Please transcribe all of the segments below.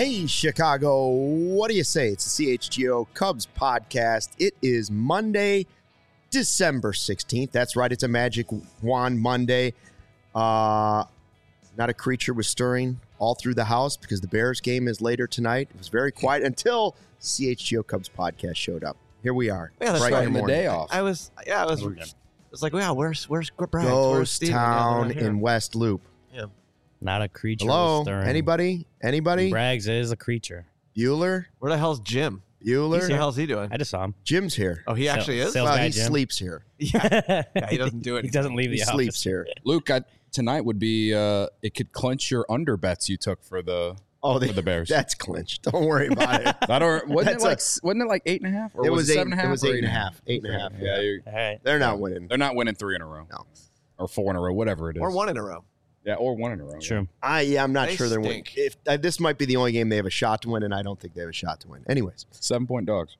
Hey, Chicago, what do you say? It's the CHGO Cubs podcast. It is Monday, December 16th. That's right, it's a Magic Wand Monday. Not a creature was stirring all through the house because the Bears game is later tonight. It was very quiet until CHGO Cubs podcast showed up. Here we are. Yeah, that's right right. The day off. I was like, wow, where's Brad? Ghost Town in West Loop. Yeah. Not a creature. Hello? Stirring. Anybody? Braggs is a creature. Bueller? Where the hell's Jim? Bueller? What the hell's he doing? I just saw him. Jim's here. Oh, he actually is? Sales Well, guy he Jim. sleeps here. Yeah, he doesn't do it. He doesn't leave He the sleeps office. here. Luke, tonight would be it could clinch your under bets you took for the Bears. That's clinched. Don't worry about it. Wasn't it like 8.5? Or It was it 7.5. 7.5? It was 8.5. 8.5. Yeah, All right. They're not winning. they're not winning 3 in a row. No. Or 4 in a row, whatever it is. Or one in a row. Yeah, or 1 in a row. True. I'm not They sure they're winning. stink. If this might be the only game they have a shot to win, and I don't think they have a shot to win. Anyways, 7-point dogs.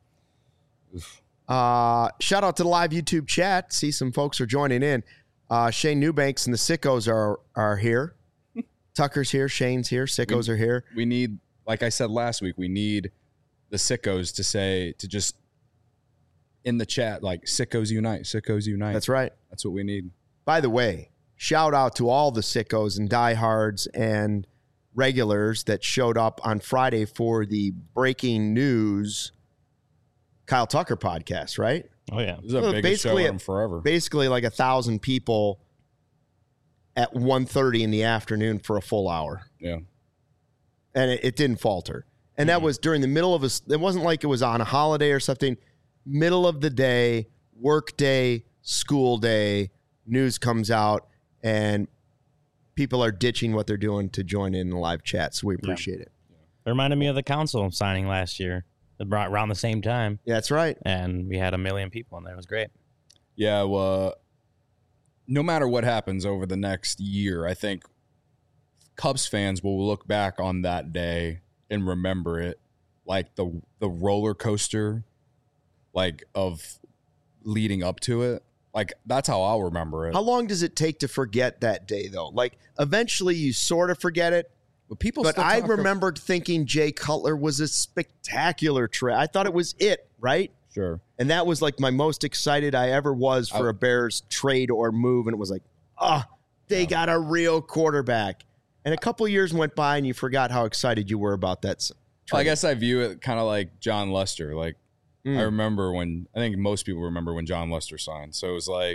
shout out to the live YouTube chat. See some folks are joining in. Shane Newbanks and the Sickos are here. Tucker's here. Shane's here. Sickos are here. We need, like I said last week, we need the sickos to just in the chat, like, sickos unite, sickos unite. That's right. That's what we need. By the way, shout out to all the sickos and diehards and regulars that showed up on Friday for the breaking news Kyle Tucker podcast, right? Oh, yeah. This is the Well, biggest show basically- in them forever. Basically like 1,000 people at 1:30 in the afternoon for a full hour. Yeah. And it didn't falter. And that was during the middle of it wasn't like it was on a holiday or something. Middle of the day, work day, school day, news comes out, and people are ditching what they're doing to join in the live chat. So we appreciate it. It reminded me of the council signing last year around the same time. Yeah, that's right. And we had 1 million people in there. It was great. Yeah, well, no matter what happens over the next year, I think Cubs fans will look back on that day and remember it like the roller coaster, like, of leading up to it. Like, that's how I'll remember it. How long does it take to forget that day, though? Like, eventually you sort of forget it. But I remembered thinking Jay Cutler was a spectacular trade. I thought it was it, right? Sure. And that was like my most excited I ever was for a Bears trade or move. And it was like, they got a real quarterback. And a couple years went by and you forgot how excited you were about that trade. I guess I view it kind of like John Lester. Like, I remember I think most people remember when John Lester signed. So it was like,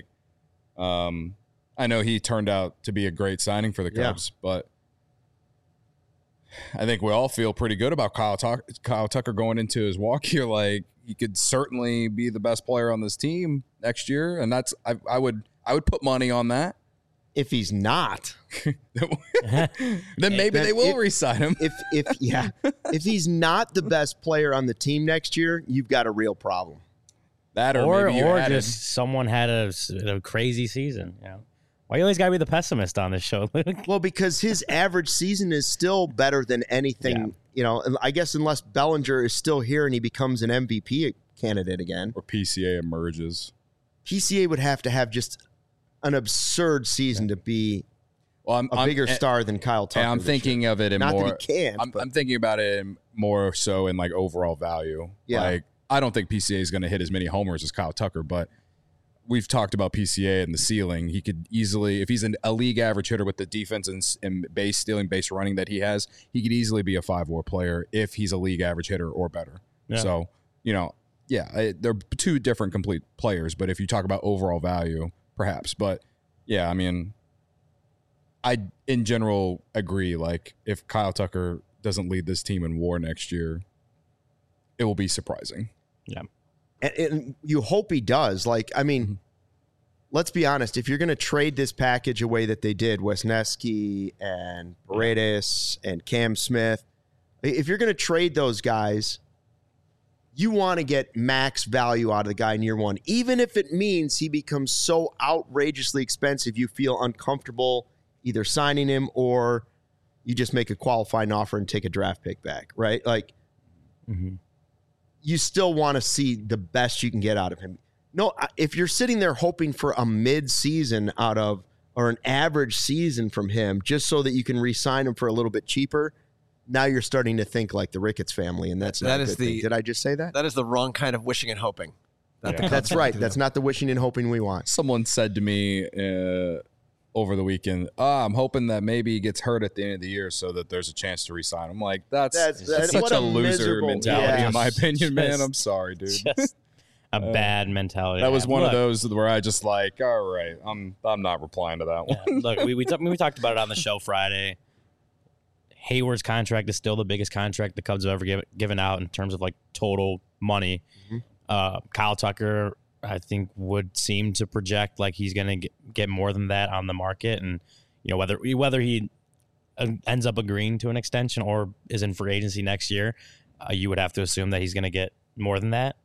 I know he turned out to be a great signing for the Cubs, but I think we all feel pretty good about Kyle Tucker going into his walk here. Like, he could certainly be the best player on this team next year, and that's I would put money on that. If he's not, then maybe they will re-sign him. if he's not the best player on the team next year, you've got a real problem. That Or maybe you added. just someone had a crazy season. You know, why you always got to be the pessimist on this show, Luke? Well, because his average season is still better than anything, you know, and I guess unless Bellinger is still here and he becomes an MVP candidate again. Or PCA emerges. PCA would have to have just an absurd season to be a bigger star than Kyle Tucker. I'm thinking of it in Not more. that he can't. I'm thinking about it in more so in like overall value. Yeah. Like, I don't think PCA is going to hit as many homers as Kyle Tucker, but we've talked about PCA and the ceiling. He could easily, if he's a league average hitter with the defense and base stealing, base running that he has, he could easily be a 5-WAR player if he's a league average hitter or better. Yeah. So, they're two different complete players, but if you talk about overall value, perhaps. But yeah, I mean, I in general agree. Like, if Kyle Tucker doesn't lead this team in WAR next year, it will be surprising. Yeah. And you hope he does. Like, I mean, let's be honest. If you're going to trade this package away that they did, Wisniewski and Paredes and Cam Smith, if you're going to trade those guys, you want to get max value out of the guy in year one, even if it means he becomes so outrageously expensive you feel uncomfortable either signing him or you just make a qualifying offer and take a draft pick back, right? Like, you still want to see the best you can get out of him. No, if you're sitting there hoping for a mid-season out of or an average season from him just so that you can re-sign him for a little bit cheaper, now you're starting to think like the Ricketts family, and that's not That a is good thing. the- Did I just say that? That is the wrong kind of wishing and hoping. That the Cubs That's like right. to That's do. not the wishing and hoping we want. Someone said to me over the weekend, I'm hoping that maybe he gets hurt at the end of the year so that there's a chance to resign. I'm like, that's That's such what a a loser miserable- mentality, yeah. in my opinion, man. Just- I'm sorry, dude. Just a bad mentality. That was to have. one of Look, those where I just like, all right, I'm not replying to that one. yeah, look, we talked about it on the show Friday. Hayward's contract is still the biggest contract the Cubs have ever given out in terms of like total money. Kyle Tucker, I think, would seem to project like he's going to get more than that on the market, and whether he ends up agreeing to an extension or is in free agency next year, you would have to assume that he's going to get more than that.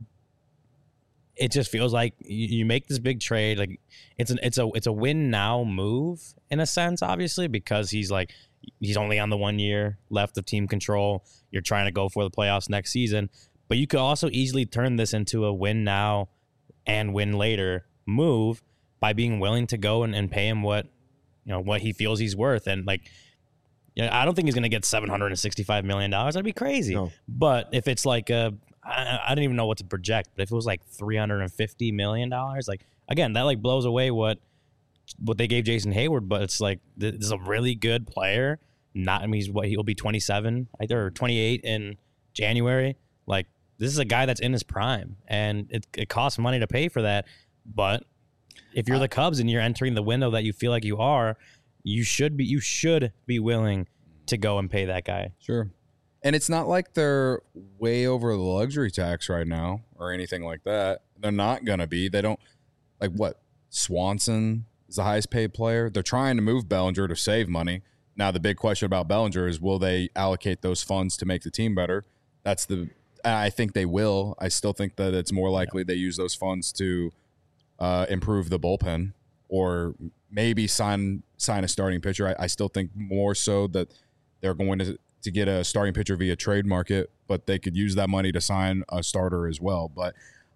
It just feels like you make this big trade, like it's a win now move in a sense, obviously, because he's only on the 1 year left of team control. You're trying to go for the playoffs next season, but you could also easily turn this into a win now and win later move by being willing to go and pay him what he feels he's worth. And I don't think he's going to get $765 million. That'd be crazy. No. But if it's like I don't even know what to project, but if it was like $350 million, again, that blows away what they gave Jason Hayward. But it's like, this is a really good player. He'll be 27 or 28 in January. Like, this is a guy that's in his prime, and it costs money to pay for that. But if you're the Cubs and you're entering the window that you feel like you are, you should be willing to go and pay that guy. Sure. And it's not like they're way over the luxury tax right now or anything like that. They're not going to be. They don't Swanson is the highest paid player. They're trying to move Bellinger to save money. Now, the big question about Bellinger is, will they allocate those funds to make the team better? I think they will. I still think that it's more likely they use those funds to improve the bullpen or maybe sign a starting pitcher. I still think more so that they're going to get a starting pitcher via trade market, but they could use that money to sign a starter as well. But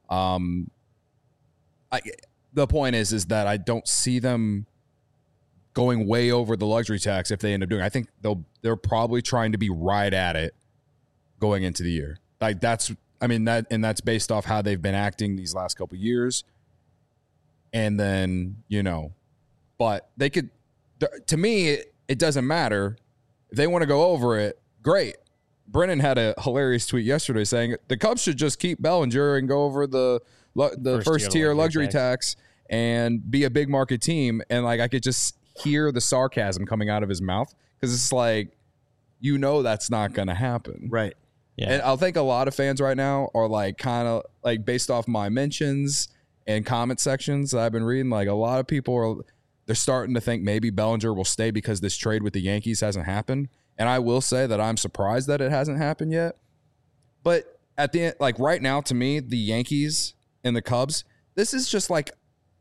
the point is that I don't see them going way over the luxury tax if they end up doing it. I think they're probably trying to be right at it going into the year. That's based off how they've been acting these last couple of years. And then, but they could, to me, it doesn't matter. If they want to go over it, great. Brennan had a hilarious tweet yesterday saying the Cubs should just keep Bellinger and go over the first tier luxury tax and be a big market team. And I could just hear the sarcasm coming out of his mouth because it's like, that's not going to happen. Right. Yeah. And I think a lot of fans right now are kind of based off my mentions and comment sections that I've been reading, a lot of people they're starting to think maybe Bellinger will stay because this trade with the Yankees hasn't happened. And I will say that I'm surprised that it hasn't happened yet. But at the end, right now, to me, the Yankees and the Cubs, this is just like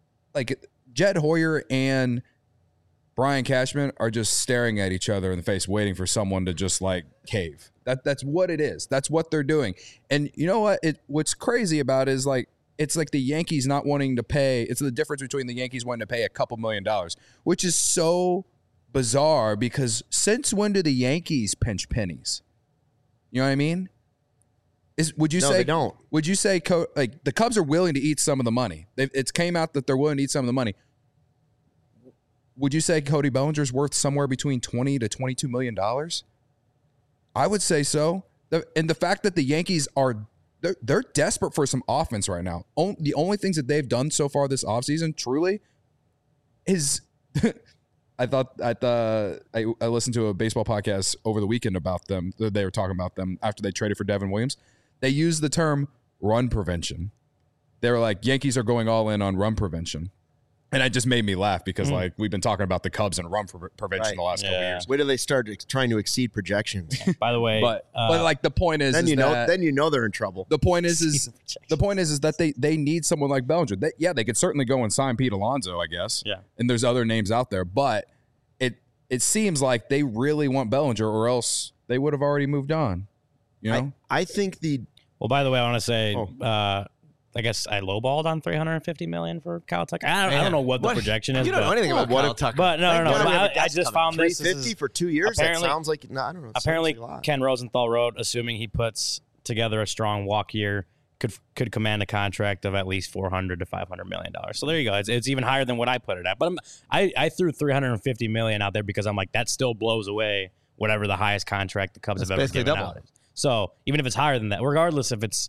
Jed Hoyer and Brian Cashman are just staring at each other in the face, waiting for someone to just cave. That's what it is. That's what they're doing. And you know what? What's crazy about it is it's like the Yankees not wanting to pay. It's the difference between the Yankees wanting to pay a couple $1 million, which is so bizarre because since when do the Yankees pinch pennies? You know what I mean? Would you No, say they don't. Would you say the Cubs are willing to eat some of the money? It's came out that they're willing to eat some of the money. Would you say Cody Bellinger's worth somewhere between $20 to $22 million? I would say so. And the fact that the Yankees they're desperate for some offense right now. The only things that they've done so far this offseason, truly, is I listened to a baseball podcast over the weekend about them. They were talking about them after they traded for Devin Williams. They used the term run prevention. They were like, Yankees are going all in on run prevention. And it just made me laugh because we've been talking about the Cubs and run prevention the last couple of years. Wait till they start trying to exceed projections. By the way, But the point is, then you know they're in trouble. the point is that they need someone like Bellinger. They could certainly go and sign Pete Alonso, I guess. Yeah. And there's other names out there, but it seems like they really want Bellinger, or else they would have already moved on. You know, I think well, by the way, I want to say I guess I lowballed on $350 million for Kyle Tucker. I don't know what the projection is. You don't know anything about Kyle Tucker. But no. God we have a I guest just coming. found this. $350 for 2 years. That sounds like I don't know. Apparently, Ken Rosenthal wrote, assuming he puts together a strong walk year, could command a contract of at least $400 to $500 million. So there you go. It's even higher than what I put it at. But I threw $350 million out there because I'm like, that still blows away whatever the highest contract the Cubs have ever given out. So even if it's higher than that, regardless if it's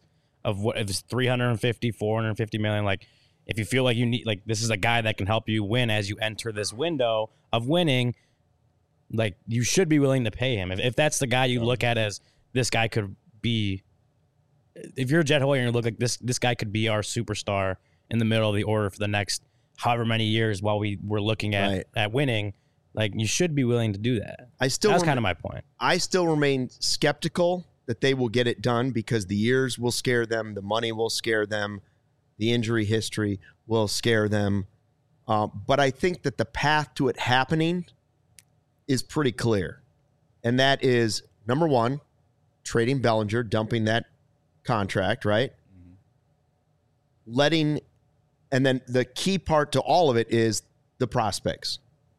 350, 450 million, like if you feel like you need, like this is a guy that can help you win as you enter this window of winning, like you should be willing to pay him. If that's the guy you look at as this guy could be, if you're Jed Hoyer and you look like this guy could be our superstar in the middle of the order for the next however many years while we're looking at winning, like you should be willing to do that. That's kind of my point. I still remain skeptical that they will get it done because the years will scare them, the money will scare them, the injury history will scare them. But I think that the path to it happening is pretty clear. And that is, number one, trading Bellinger, dumping that contract, right? Mm-hmm. And then the key part to all of it is the prospects.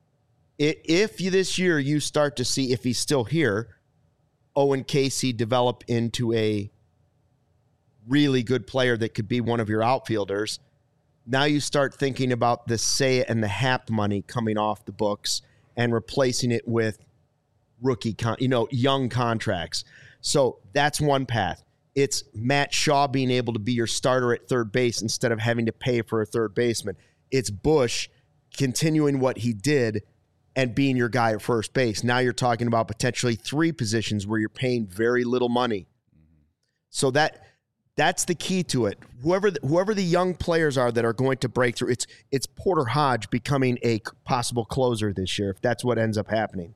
If this year you start to see, if he's still here, Owen Casey develop into a really good player that could be one of your outfielders, now you start thinking about the Seiya and the Happ money coming off the books and replacing it with rookie, young contracts. So that's one path. It's Matt Shaw being able to be your starter at third base instead of having to pay for a third baseman. It's Bush continuing what he did and being your guy at first base. Now you're talking about potentially 3 positions where you're paying very little money. So that's the key to it. Whoever the young players are that are going to break through, it's Porter Hodge becoming a possible closer this year if that's what ends up happening.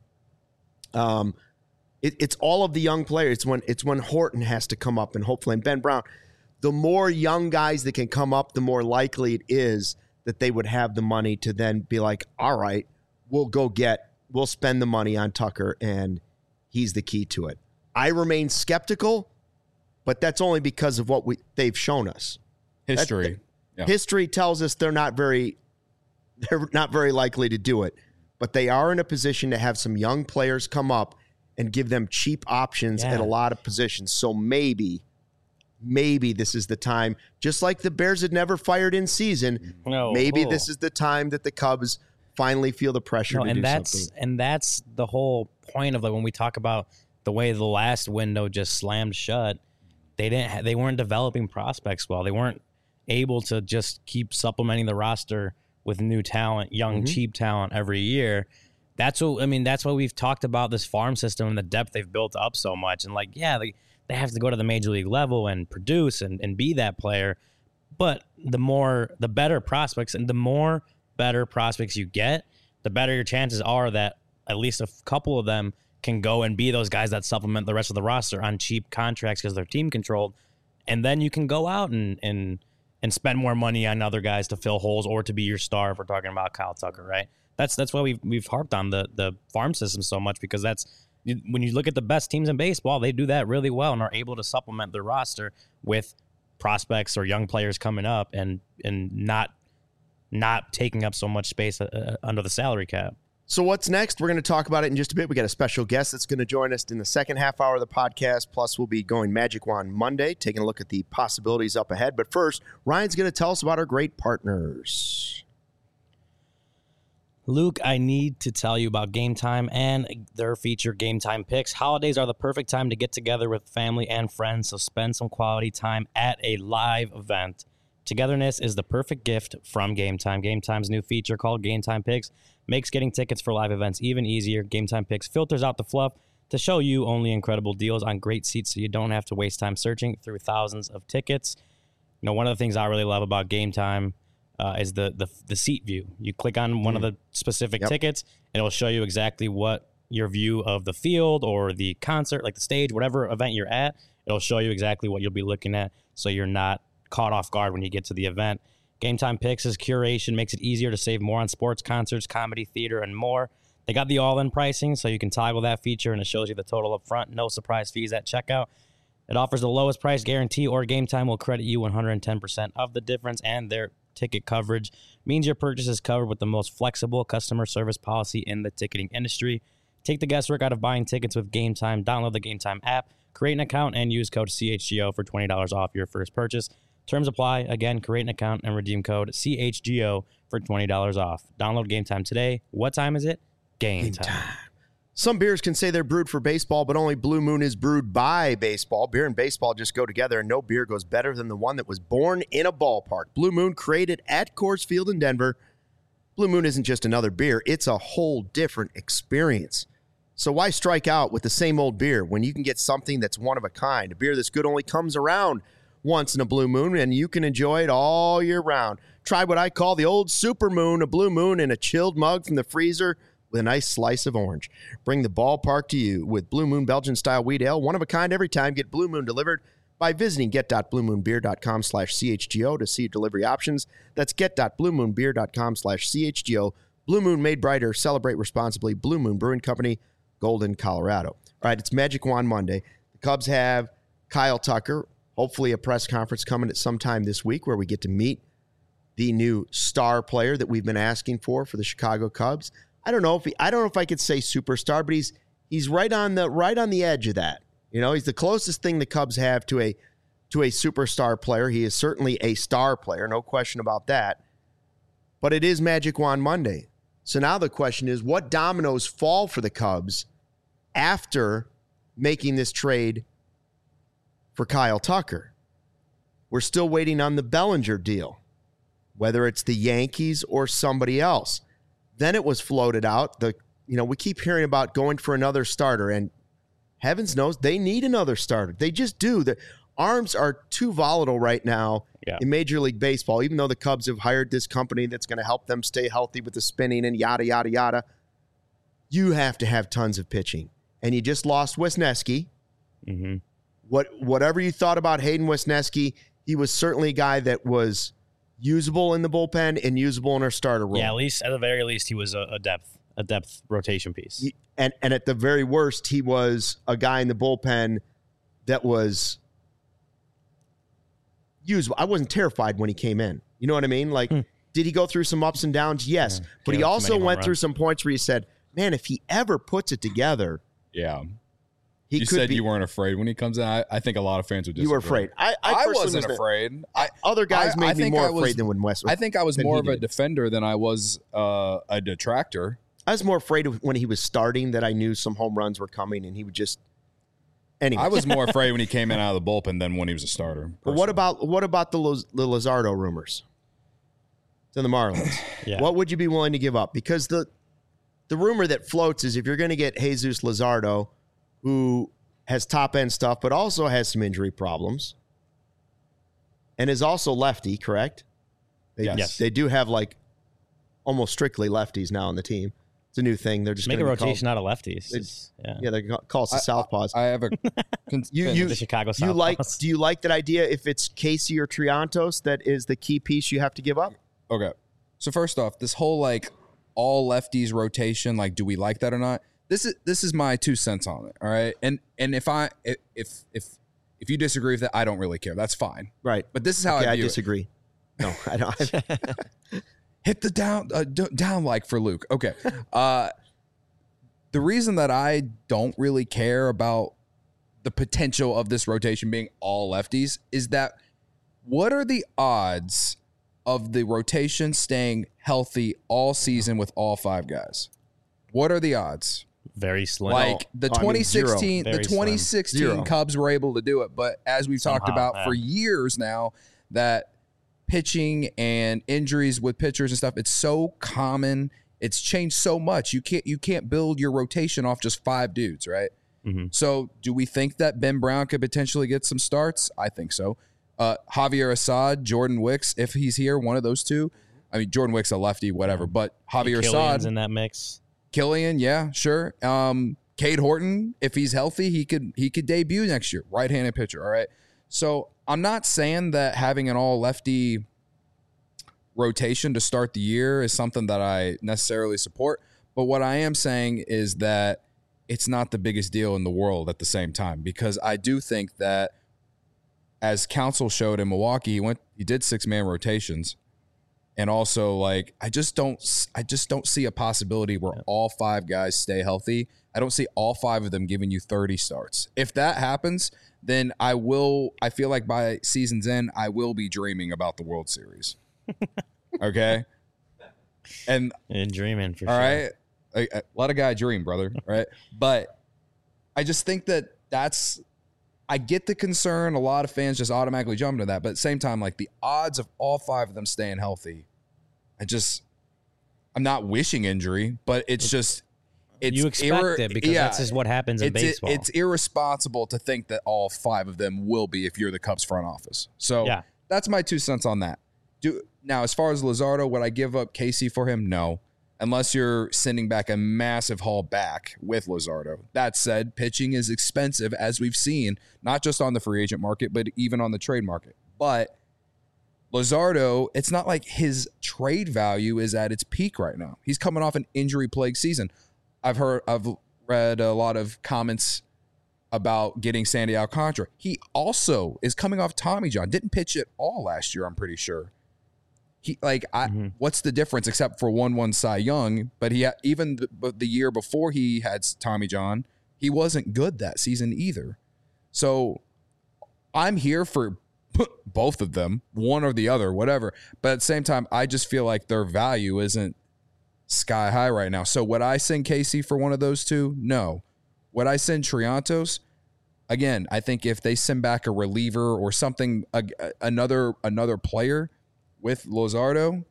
It's all of the young players. It's when Horton has to come up and hopefully and Ben Brown. The more young guys that can come up, the more likely it is that they would have the money to then be like, all right, we'll spend the money on Tucker, and he's the key to it. I remain skeptical, but that's only because of what they've shown us. History. History tells us they're not very likely to do it, but they are in a position to have some young players come up and give them cheap options at a lot of positions. So maybe this is the time, just like the Bears had never fired in season, this is the time that the Cubs finally feel the pressure to do something. And that's the whole point of when we talk about the way the last window just slammed shut. They weren't developing prospects well. They weren't able to just keep supplementing the roster with new talent, young, cheap talent every year. That's why we've talked about this farm system and the depth they've built up so much. And they have to go to the major league level and produce and be that player. But the better prospects and the more better prospects you get, the better your chances are that at least a couple of them can go and be those guys that supplement the rest of the roster on cheap contracts because they're team controlled. And then you can go out and spend more money on other guys to fill holes or to be your star if we're talking about Kyle Tucker, right? That's why we've harped on the farm system so much, because when you look at the best teams in baseball, they do that really well and are able to supplement their roster with prospects or young players coming up and not taking up so much space under the salary cap. So what's next? We're going to talk about it in just a bit. We got a special guest that's going to join us in the second half hour of the podcast. Plus, we'll be going Magic Wand Monday, taking a look at the possibilities up ahead. But first, Ryan's going to tell us about our great partners. Luke, I need to tell you about Game Time and their feature Game Time Picks. Holidays are the perfect time to get together with family and friends, so spend some quality time at a live event. Togetherness is the perfect gift from Game Time. Game Time's new feature called Game Time Picks makes getting tickets for live events even easier. Game Time Picks filters out the fluff to show you only incredible deals on great seats so you don't have to waste time searching through thousands of tickets. One of the things I really love about Game Time is the seat view. You click on one of the specific tickets, and it'll show you exactly what your view of the field or the concert, like the stage, whatever event you're at, it'll show you exactly what you'll be looking at so you're not caught off guard when you get to the event. Game Time Picks' curation makes it easier to save more on sports, concerts, comedy, theater, and more. They got the all-in pricing, so you can toggle that feature, and it shows you the total up front. No surprise fees at checkout. It offers the lowest price guarantee, or Game Time will credit you 110% of the difference, and their ticket coverage means your purchase is covered with the most flexible customer service policy in the ticketing industry. Take the guesswork out of buying tickets with Game Time. Download the Game Time app, create an account, and use code CHGO for $20 off your first purchase. Terms apply. Again, create an account and redeem code CHGO for $20 off. Download Game Time today. What time is it? Game time. Some beers can say they're brewed for baseball, but only Blue Moon is brewed by baseball. Beer and baseball just go together, and no beer goes better than the one that was born in a ballpark. Blue Moon, created at Coors Field in Denver. Blue Moon isn't just another beer. It's a whole different experience. So why strike out with the same old beer when you can get something that's one of a kind? A beer that's good only comes around once in a Blue Moon, and you can enjoy it all year round. Try what I call the old Super Moon, a Blue Moon in a chilled mug from the freezer with a nice slice of orange. Bring the ballpark to you with Blue Moon Belgian-style wheat ale, one of a kind every time. Get Blue Moon delivered by visiting get.bluemoonbeer.com/CHGO to see delivery options. That's get.bluemoonbeer.com/CHGO. Blue Moon, made brighter. Celebrate responsibly. Blue Moon Brewing Company, Golden, Colorado. All right, it's Magic Wand Monday. The Cubs have Kyle Tucker, hopefully a press conference coming at some time this week where we get to meet the new star player that we've been asking for the Chicago Cubs. I don't know if I could say superstar, but he's right on the edge of that. You know, he's the closest thing the Cubs have to a superstar player. He is certainly a star player, no question about that. But it is Magic Wand Monday. So now the question is, what dominoes fall for the Cubs after making this trade for Kyle Tucker? We're still waiting on the Bellinger deal, whether it's the Yankees or somebody else. Then it was floated out. We keep hearing about going for another starter, and heavens knows they need another starter. They just do. The arms are too volatile right now in Major League Baseball, even though the Cubs have hired this company that's going to help them stay healthy with the spinning and yada, yada, yada. You have to have tons of pitching. And you just lost Wisniewski. Mm-hmm. Whatever you thought about Hayden Wisniewski, he was certainly a guy that was usable in the bullpen and usable in our starter role. Yeah, at the very least, he was a depth rotation piece. And at the very worst, he was a guy in the bullpen that was usable. I wasn't terrified when he came in. You know what I mean? Like, did he go through some ups and downs? Yes. But he also went through some points where he said, man, if he ever puts it together. Yeah. You said you weren't afraid when he comes in. I think a lot of fans would disagree. You were afraid. I wasn't afraid. Other guys made me more afraid than when West. I think I was more of a defender than I was a detractor. I was more afraid of when he was starting that I knew some home runs were coming and he would just. Anyway. I was more afraid when he came in out of the bullpen than when he was a starter. But what about the Luzardo rumors to the Marlins? Yeah. What would you be willing to give up? Because the rumor that floats is if you're going to get Jesus Luzardo, who has top-end stuff but also has some injury problems and is also lefty, correct? Yes. They do have, like, almost strictly lefties now on the team. It's a new thing. They're just make a rotation out of lefties. They call us the Southpaws. I have a the Chicago Southpaws. Do you like that idea if it's Casey or Triantos that is the key piece you have to give up? Okay. So first off, this whole like all lefties rotation, like do we like that or not? This is my 2 cents on it. All right. And if you disagree with that, I don't really care. That's fine. Right. But this is how I disagree. No, I don't. Hit the down like for Luke. Okay. The reason that I don't really care about the potential of this rotation being all lefties is that what are the odds of the rotation staying healthy all season with all 5 guys? What are the odds? Very slim. Like the 2016 Zero. Cubs were able to do it, but as we've talked about for years now, that pitching and injuries with pitchers and stuff, it's so common. It's changed so much. You can't build your rotation off just 5 dudes, right? Mm-hmm. So do we think that Ben Brown could potentially get some starts? I think so. Javier Assad, Jordan Wicks, if he's here, one of those two. I mean, Jordan Wicks a lefty, whatever, but Javier Assad in that mix. Killian, yeah, sure. Cade Horton, if he's healthy, he could debut next year. Right-handed pitcher, all right? So I'm not saying that having an all-lefty rotation to start the year is something that I necessarily support, but what I am saying is that it's not the biggest deal in the world at the same time, because I do think that as Council showed in Milwaukee, he did 6-man rotations. And also, like, I just don't see a possibility where all 5 guys stay healthy. I don't see all 5 of them giving you 30 starts. If that happens, then I feel like by season's end, I will be dreaming about the World Series. Okay? And dreaming for all sure. right? Let a guy dream, brother. Right? But I just think I get the concern. A lot of fans just automatically jump to that. But at the same time, like, the odds of all 5 of them staying healthy, I'm not wishing injury, but it's you expect it because that's just what happens in baseball. It's irresponsible to think that all 5 of them will be if you're the Cubs front office. So that's my 2 cents on that. Now, as far as Luzardo, would I give up Casey for him? No. Unless you're sending back a massive haul back with Luzardo. That said, pitching is expensive, as we've seen, not just on the free agent market, but even on the trade market. But Luzardo, it's not like his trade value is at its peak right now. He's coming off an injury-plagued season. I've read a lot of comments about getting Sandy Alcantara. He also is coming off Tommy John. Didn't pitch at all last year, I'm pretty sure. What's the difference except for 1-1 Cy Young? But even the year before he had Tommy John, he wasn't good that season either. So I'm here for both of them, one or the other, whatever. But at the same time, I just feel like their value isn't sky high right now. So would I send Casey for one of those 2? No. Would I send Triantos? Again, I think if they send back a reliever or something, another player with Luzardo,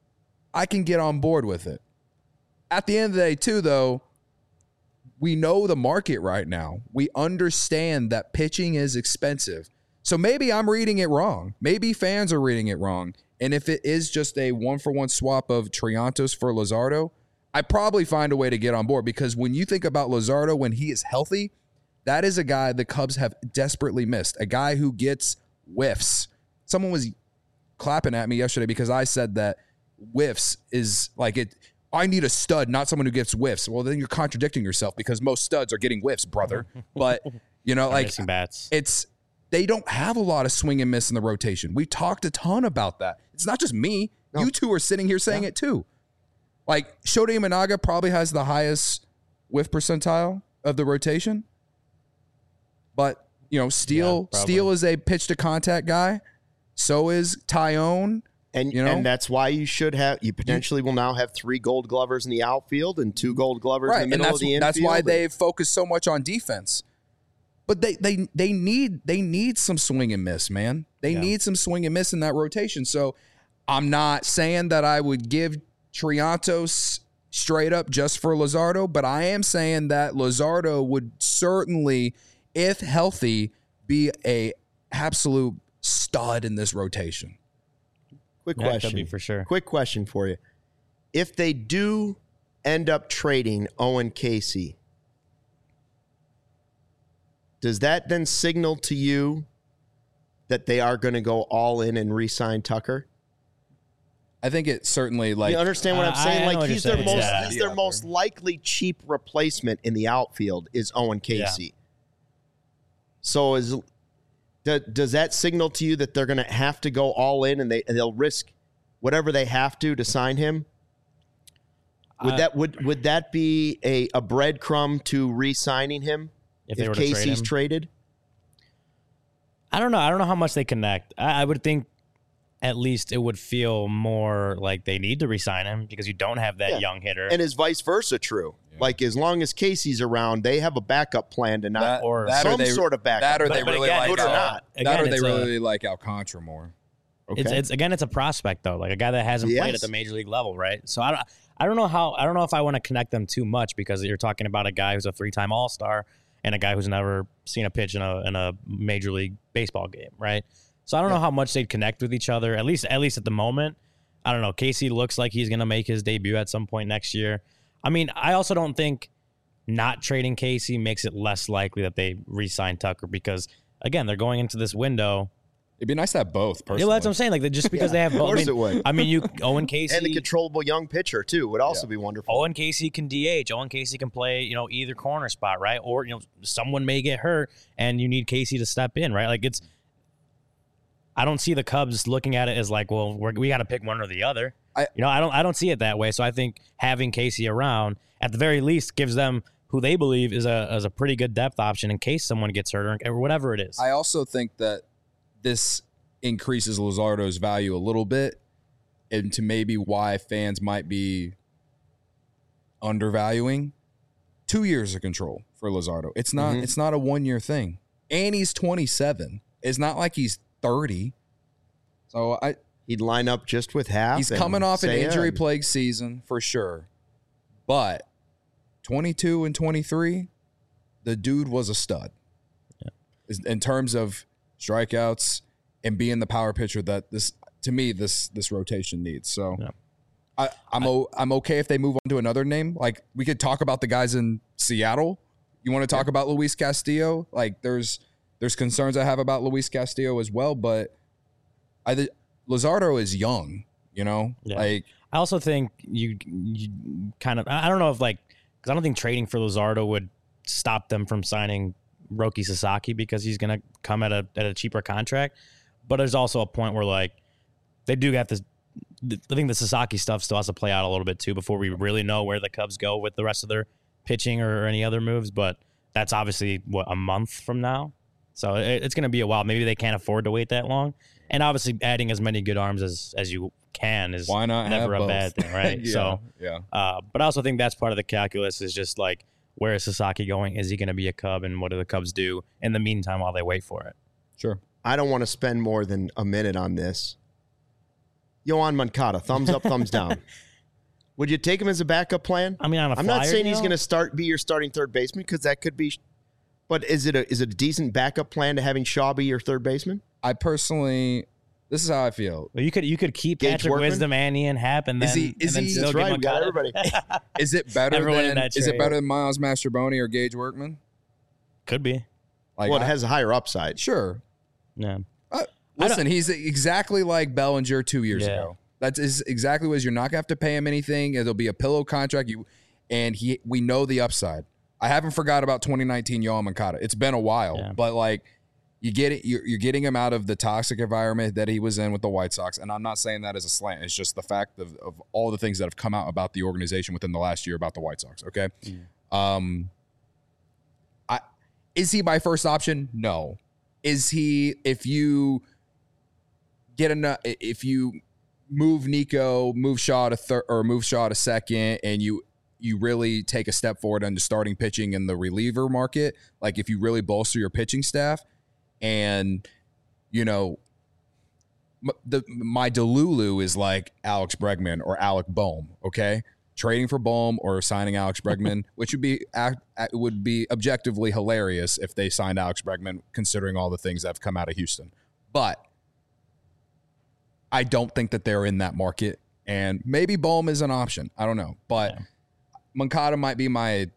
I can get on board with it. At the end of the day, too, though, we know the market right now. We understand that pitching is expensive. So maybe I'm reading it wrong. Maybe fans are reading it wrong. And if it is just a 1-for-1 swap of Triantos for Luzardo, I probably find a way to get on board, because when you think about Luzardo when he is healthy, that is a guy the Cubs have desperately missed. A guy who gets whiffs. Someone was clapping at me yesterday because I said that whiffs is like it. I need a stud, not someone who gets whiffs. Well, then you're contradicting yourself, because most studs are getting whiffs, brother. But like missing bats. They don't have a lot of swing and miss in the rotation. We talked a ton about that. It's not just me. No. You two are sitting here saying it too. Like, Shota Imanaga probably has the highest whiff percentile of the rotation. But, Steele is a pitch to contact guy. So is Tyone. And that's why you potentially will now have 3 Gold Glovers in the outfield and 2 Gold Glovers in the middle of the infield. That's why they've focused so much on defense. But they need some swing and miss, man. They need some swing and miss in that rotation. So I'm not saying that I would give Triantos straight up just for Luzardo, but I am saying that Luzardo would certainly, if healthy, be a absolute stud in this rotation. Quick question. Could be for sure. Quick question for you. If they do end up trading Owen Casey, does that then signal to you that they are going to go all in and re-sign Tucker? I think it certainly, like, you understand what I'm saying? He's their most most likely cheap replacement in the outfield is Owen Casey. Yeah. So does that signal to you that they're going to have to go all in and they'll risk whatever they have to sign him? Would that be a breadcrumb to re-signing him if Casey's traded? I don't know. I don't know how much they connect. I would think at least it would feel more like they need to re-sign him because you don't have that young hitter. And is vice versa true? Yeah. Like, as long as Casey's around, they have a backup plan to not sort of backup. That or they really like good or not. That or they really like Alcantara more. Okay. It's a prospect though, like a guy that hasn't played at the major league level, right? So I don't know if I want to connect them too much, because you're talking about a guy who's a 3-time All-Star and a guy who's never seen a pitch in a major league baseball game, right? So I don't know how much they'd connect with each other, at least at the moment. I don't know. Casey looks like he's going to make his debut at some point next year. I mean, I also don't think not trading Casey makes it less likely that they re-sign Tucker, because, again, they're going into this window. It'd be nice to have both, personally. Yeah, that's what I'm saying. Like, just because they have both. Of course it would. I mean, Owen Casey. And a controllable young pitcher, too, would also be wonderful. Owen Casey can DH. Owen Casey can play, either corner spot, right? Or, someone may get hurt and you need Casey to step in, right? Like, I don't see the Cubs looking at it as like, well, we got to pick one or the other. I don't see it that way. So I think having Casey around at the very least gives them who they believe is a pretty good depth option in case someone gets hurt or whatever it is. I also think that this increases Luzardo's value a little bit, and to maybe why fans might be undervaluing 2 years of control for Luzardo. It's not It's not a 1 year thing. And he's 27. It's not like he's 30. So he'd line up just with half. He's coming off an injury plagued season for sure. But 22 and 23, the dude was a stud. Yeah. In terms of strikeouts and being the power pitcher that this rotation needs. So yeah. I'm okay if they move on to another name. Like, we could talk about the guys in Seattle. You want to talk about Luis Castillo? Like, there's concerns I have about Luis Castillo as well, but Luzardo is young, you know? Yeah. Like, I also think you kind of, I don't know if like, because I don't think trading for Luzardo would stop them from signing Roki Sasaki because he's going to come at a cheaper contract. But there's also a point where like they do got this. I think the Sasaki stuff still has to play out a little bit too before we really know where the Cubs go with the rest of their pitching or any other moves. But that's obviously a month from now. So it's going to be a while. Maybe they can't afford to wait that long. And obviously adding as many good arms as you can is why not never a both? bad thing, right? Yeah. But I also think that's part of the calculus is just like, where is Sasaki going? Is he going to be a Cub? And what do the Cubs do in the meantime while they wait for it? Sure. I don't want to spend more than a minute on this. Yoan Moncada, thumbs up, thumbs down. Would you take him as a backup plan? I mean, I'm not saying he's going to be your starting third baseman because that could be. But is it a decent backup plan to having Shaw be your third baseman? I personally, this is how I feel. Well, you could keep Gage Patrick Workman? Wisdom and Ian Happ, and then still That's give right. We got Moncada. everybody. Is it better Everyone in than that is it trade. better than Miles Mastroboni or Gage Workman? Could be. Like, Well, it has a higher upside. sure. Yeah. Listen, he's exactly like Bellinger 2 years Yeah. ago. That's exactly what it is. You're not gonna have to pay him anything. It'll be a pillow contract. We know the upside. I haven't forgot about 2019 Yoan Moncada. It's been a while, but like you get it. You're getting him out of the toxic environment that he was in with the White Sox. And I'm not saying that as a slant. It's just the fact of all the things that have come out about the organization within the last year about the White Sox. Okay. Is he my first option? No. Is he, if you move Nico, move Shaw to third or move Shaw to second, and you really take a step forward into starting pitching in the reliever market, like if you really bolster your pitching staff, and you know, my Delulu is like Alex Bregman or Alec Boehm. Okay, trading for Boehm or signing Alex Bregman, which would be objectively hilarious if they signed Alex Bregman, considering all the things that have come out of Houston, but I don't think that they're in that market, and maybe Boehm is an option. I don't know, but Moncada might be my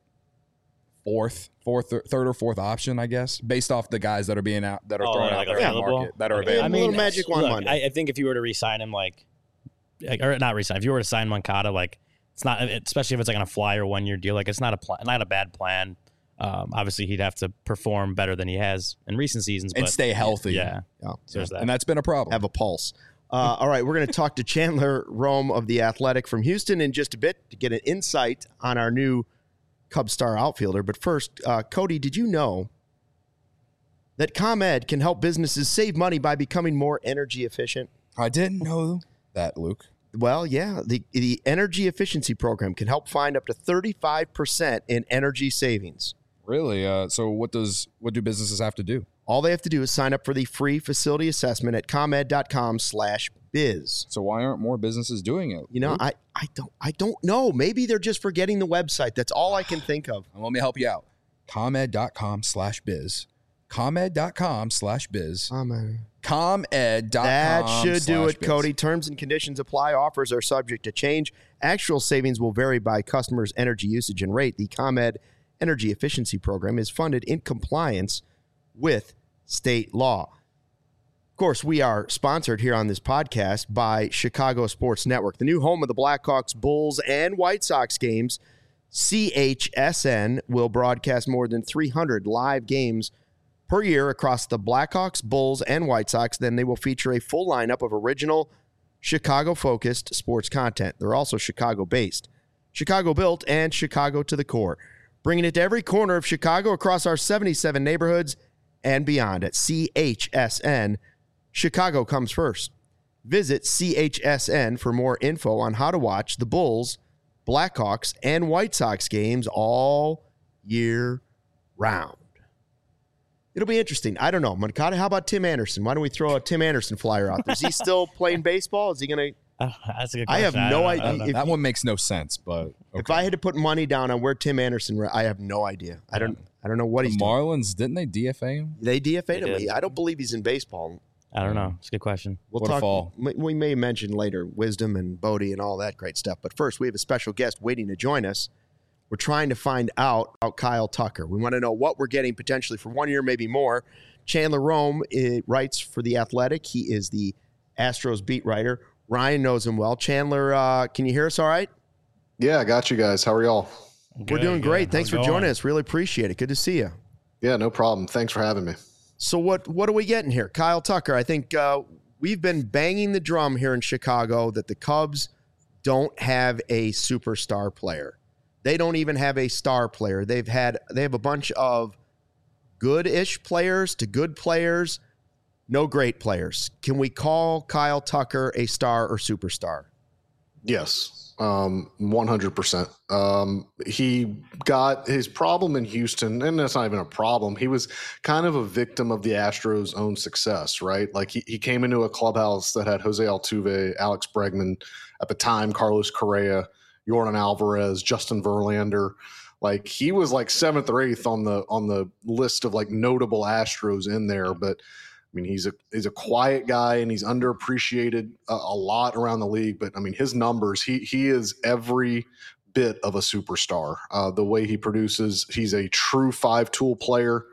third or fourth option, I guess, based off the guys that are being out that are thrown out there in the market that are available. I mean, little magic one Monday. I think if you were to re-sign him, or not re-sign, if you were to sign Moncada, like it's not, especially if it's like on a flyer 1 year deal, like it's not a bad plan. Obviously, he'd have to perform better than he has in recent seasons, and but stay healthy. Yeah, so there's that. And that's been a problem. Have a pulse. All right, we're going to talk to Chandler Rome of The Athletic from Houston in just a bit to get an insight on our new Cubs star outfielder. But first, Cody, did you know that ComEd can help businesses save money by becoming more energy efficient? I didn't know that, Luke. Well, yeah, the Energy Efficiency Program can help find up to 35% in energy savings. Really? So what do businesses have to do? All they have to do is sign up for the free facility assessment at comed.com/biz. So why aren't more businesses doing it? You know, Luke? I don't know. Maybe they're just forgetting the website. That's all I can think of. Let me help you out. ComEd.com/biz. ComEd.com/biz. ComEd.com. That should do it, /biz. Cody. Terms and conditions apply. Offers are subject to change. Actual savings will vary by customers' energy usage and rate. The ComEd Energy Efficiency Program is funded in compliance with state law. Of course, we are sponsored here on this podcast by Chicago Sports Network, the new home of the Blackhawks, Bulls, and White Sox games. CHSN will broadcast more than 300 live games per year across the Blackhawks, Bulls, and White Sox. Then they will feature a full lineup of original Chicago-focused sports content. They're also Chicago-based, Chicago-built, and Chicago to the core, bringing it to every corner of Chicago across our 77 neighborhoods and beyond. At CHSN, Chicago comes first. Visit CHSN for more info on how to watch the Bulls, Blackhawks, and White Sox games all year round. It'll be interesting. I don't know. Moncada, how about Tim Anderson? Why don't we throw a Tim Anderson flyer out there? Is he still playing baseball? Is he going to? That's a good question. I have no idea. That one makes no sense, but okay. If I had to put money down on where Tim Anderson, I have no idea. I don't know what he's doing. Marlins, didn't they DFA him? They DFA'd him. did. I don't believe he's in baseball. I don't know. It's a good question. We'll What a talk. fall. We may mention later Wisdom and Bodie and all that great stuff. But first, we have a special guest waiting to join us. We're trying to find out about Kyle Tucker. We want to know what we're getting potentially for 1 year, maybe more. Chandler Rome writes for The Athletic. He is the Astros beat writer. Ryan knows him well. Chandler, can you hear us all right? Yeah, I got you guys. How are y'all? We're doing great. Thanks for joining us. Really appreciate it. Good to see you. Yeah, no problem. Thanks for having me. So what are we getting here? Kyle Tucker, I think we've been banging the drum here in Chicago that the Cubs don't have a superstar player. They don't even have a star player. They have a bunch of good-ish players to good players, no great players. Can we call Kyle Tucker a star or superstar? Yes, 100%. He got his problem in Houston, and that's not even a problem. He was kind of a victim of the Astros' own success, right? Like he came into a clubhouse that had Jose Altuve, Alex Bregman, at the time, Carlos Correa, Yordan Alvarez, Justin Verlander. Like he was like 7th or 8th on the list of like notable Astros in there. But I mean, he's a quiet guy and he's underappreciated a lot around the league. But I mean, his numbers, he is every bit of a superstar. The way he produces, he's a true 5-tool player.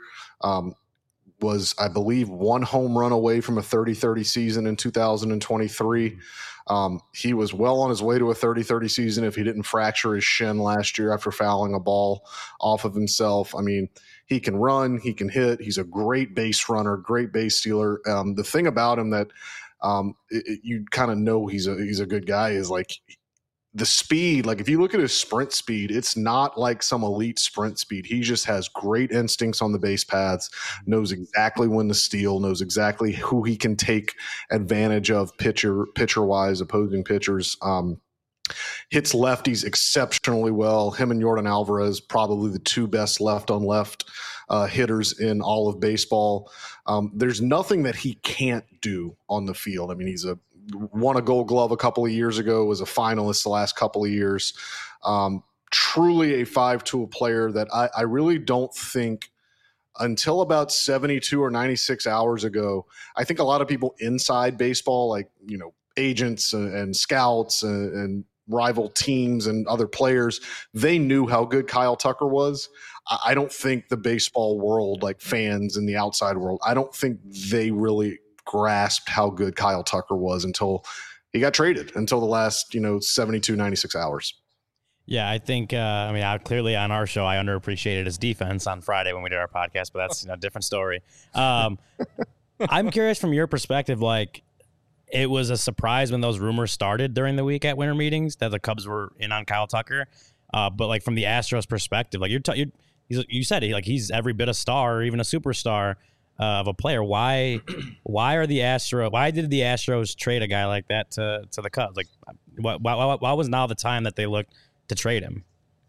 Was, I believe, 1 home run away from a 30-30 season in 2023. He was well on his way to a 30-30 season if he didn't fracture his shin last year after fouling a ball off of himself. I mean, he can run, he can hit. He's a great base runner, great base stealer. The thing about him that you kind of know he's a good guy is like the speed. Like if you look at his sprint speed, it's not like some elite sprint speed. He just has great instincts on the base paths, knows exactly when to steal, knows exactly who he can take advantage of pitcher wise, opposing pitchers. Hits lefties exceptionally well. Him and Yordan Alvarez, probably the 2 best left on left hitters in all of baseball. There's nothing that he can't do on the field. I mean, he's won a Gold Glove a couple of years ago, was a finalist the last couple of years. Truly a 5-tool player that I really don't think until about 72 or 96 hours ago, I think a lot of people inside baseball, like, you know, agents and scouts and rival teams and other players, they knew how good Kyle Tucker was. I don't think the baseball world, like fans in the outside world, I don't think they really grasped how good Kyle Tucker was until he got traded, until the last, 72, 96 hours. Yeah, I think, clearly on our show, I underappreciated his defense on Friday when we did our podcast, but that's a different story. I'm curious from your perspective, like, it was a surprise when those rumors started during the week at winter meetings that the Cubs were in on Kyle Tucker. But like from the Astros perspective, like you said, he's every bit a star or even a superstar of a player. Why did the Astros trade a guy like that to the Cubs? Like, why was now the time that they looked to trade him?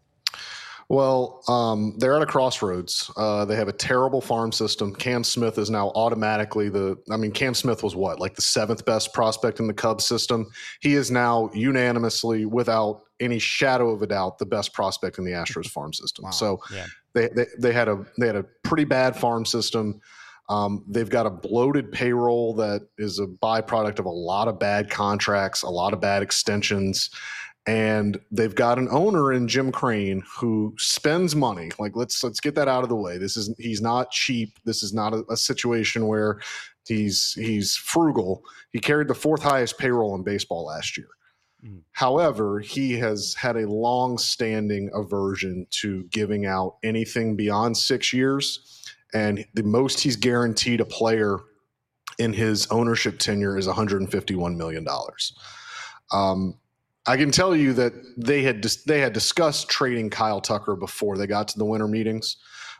Well, they're at a crossroads. They have a terrible farm system. Cam Smith is now automatically Cam Smith was like the 7th best prospect in the Cubs system. He is now unanimously, without any shadow of a doubt, the best prospect in the Astros farm system. Wow. So yeah. They had a pretty bad farm system. They've got a bloated payroll that is a byproduct of a lot of bad contracts, a lot of bad extensions. And they've got an owner in Jim Crane who spends money. Like, let's get that out of the way. He's not cheap. This is not a situation where he's frugal. He carried the 4th highest payroll in baseball last year. Mm. However, he has had a long-standing aversion to giving out anything beyond 6 years. and the most he's guaranteed a player in his ownership tenure is $151 million. I can tell you that they had discussed trading Kyle Tucker before they got to the winter meetings.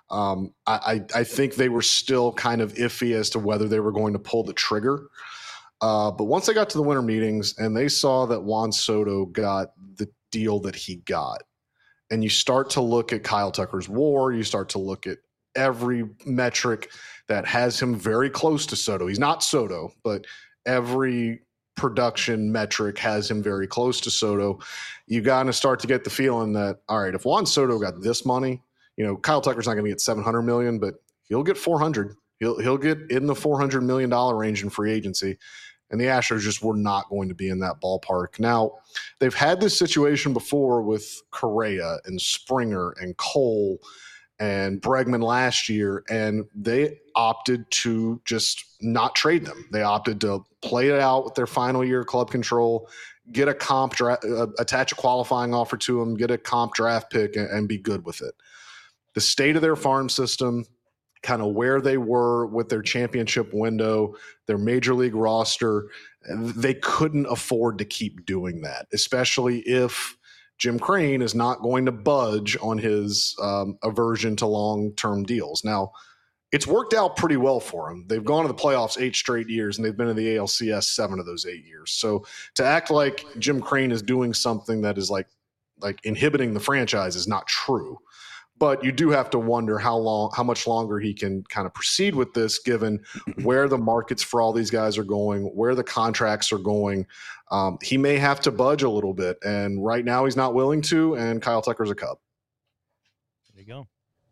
I think they were still kind of iffy as to whether they were going to pull the trigger. But once they got to the winter meetings and they saw that Juan Soto got the deal that he got, and you start to look at Kyle Tucker's WAR, you start to look at every metric that has him very close to Soto. He's not Soto, but every production metric has him very close to Soto. You got to start to get the feeling that, all right, if Juan Soto got this money, Kyle Tucker's not going to get $700 million, but he'll get $400. He'll get in the $400 million range in free agency. And the Astros just were not going to be in that ballpark. Now, they've had this situation before with Correa and Springer and Cole and Bregman last year, and they opted to just not trade them. They opted to play it out with their final year club control, get a comp draft, attach a qualifying offer to them, get a comp draft pick, and be good with it. The state of their farm system, kind of where they were with their championship window, their major league roster, they couldn't afford to keep doing that, especially if Jim Crane is not going to budge on his aversion to long-term deals. Now, it's worked out pretty well for them. They've gone to the playoffs 8 straight years, and they've been in the ALCS 7 of those 8 years. So to act like Jim Crane is doing something that is like inhibiting the franchise is not true. But you do have to wonder how much longer he can kind of proceed with this, given where the markets for all these guys are going, where the contracts are going. He may have to budge a little bit, and right now he's not willing to, and Kyle Tucker's a Cub. There you go.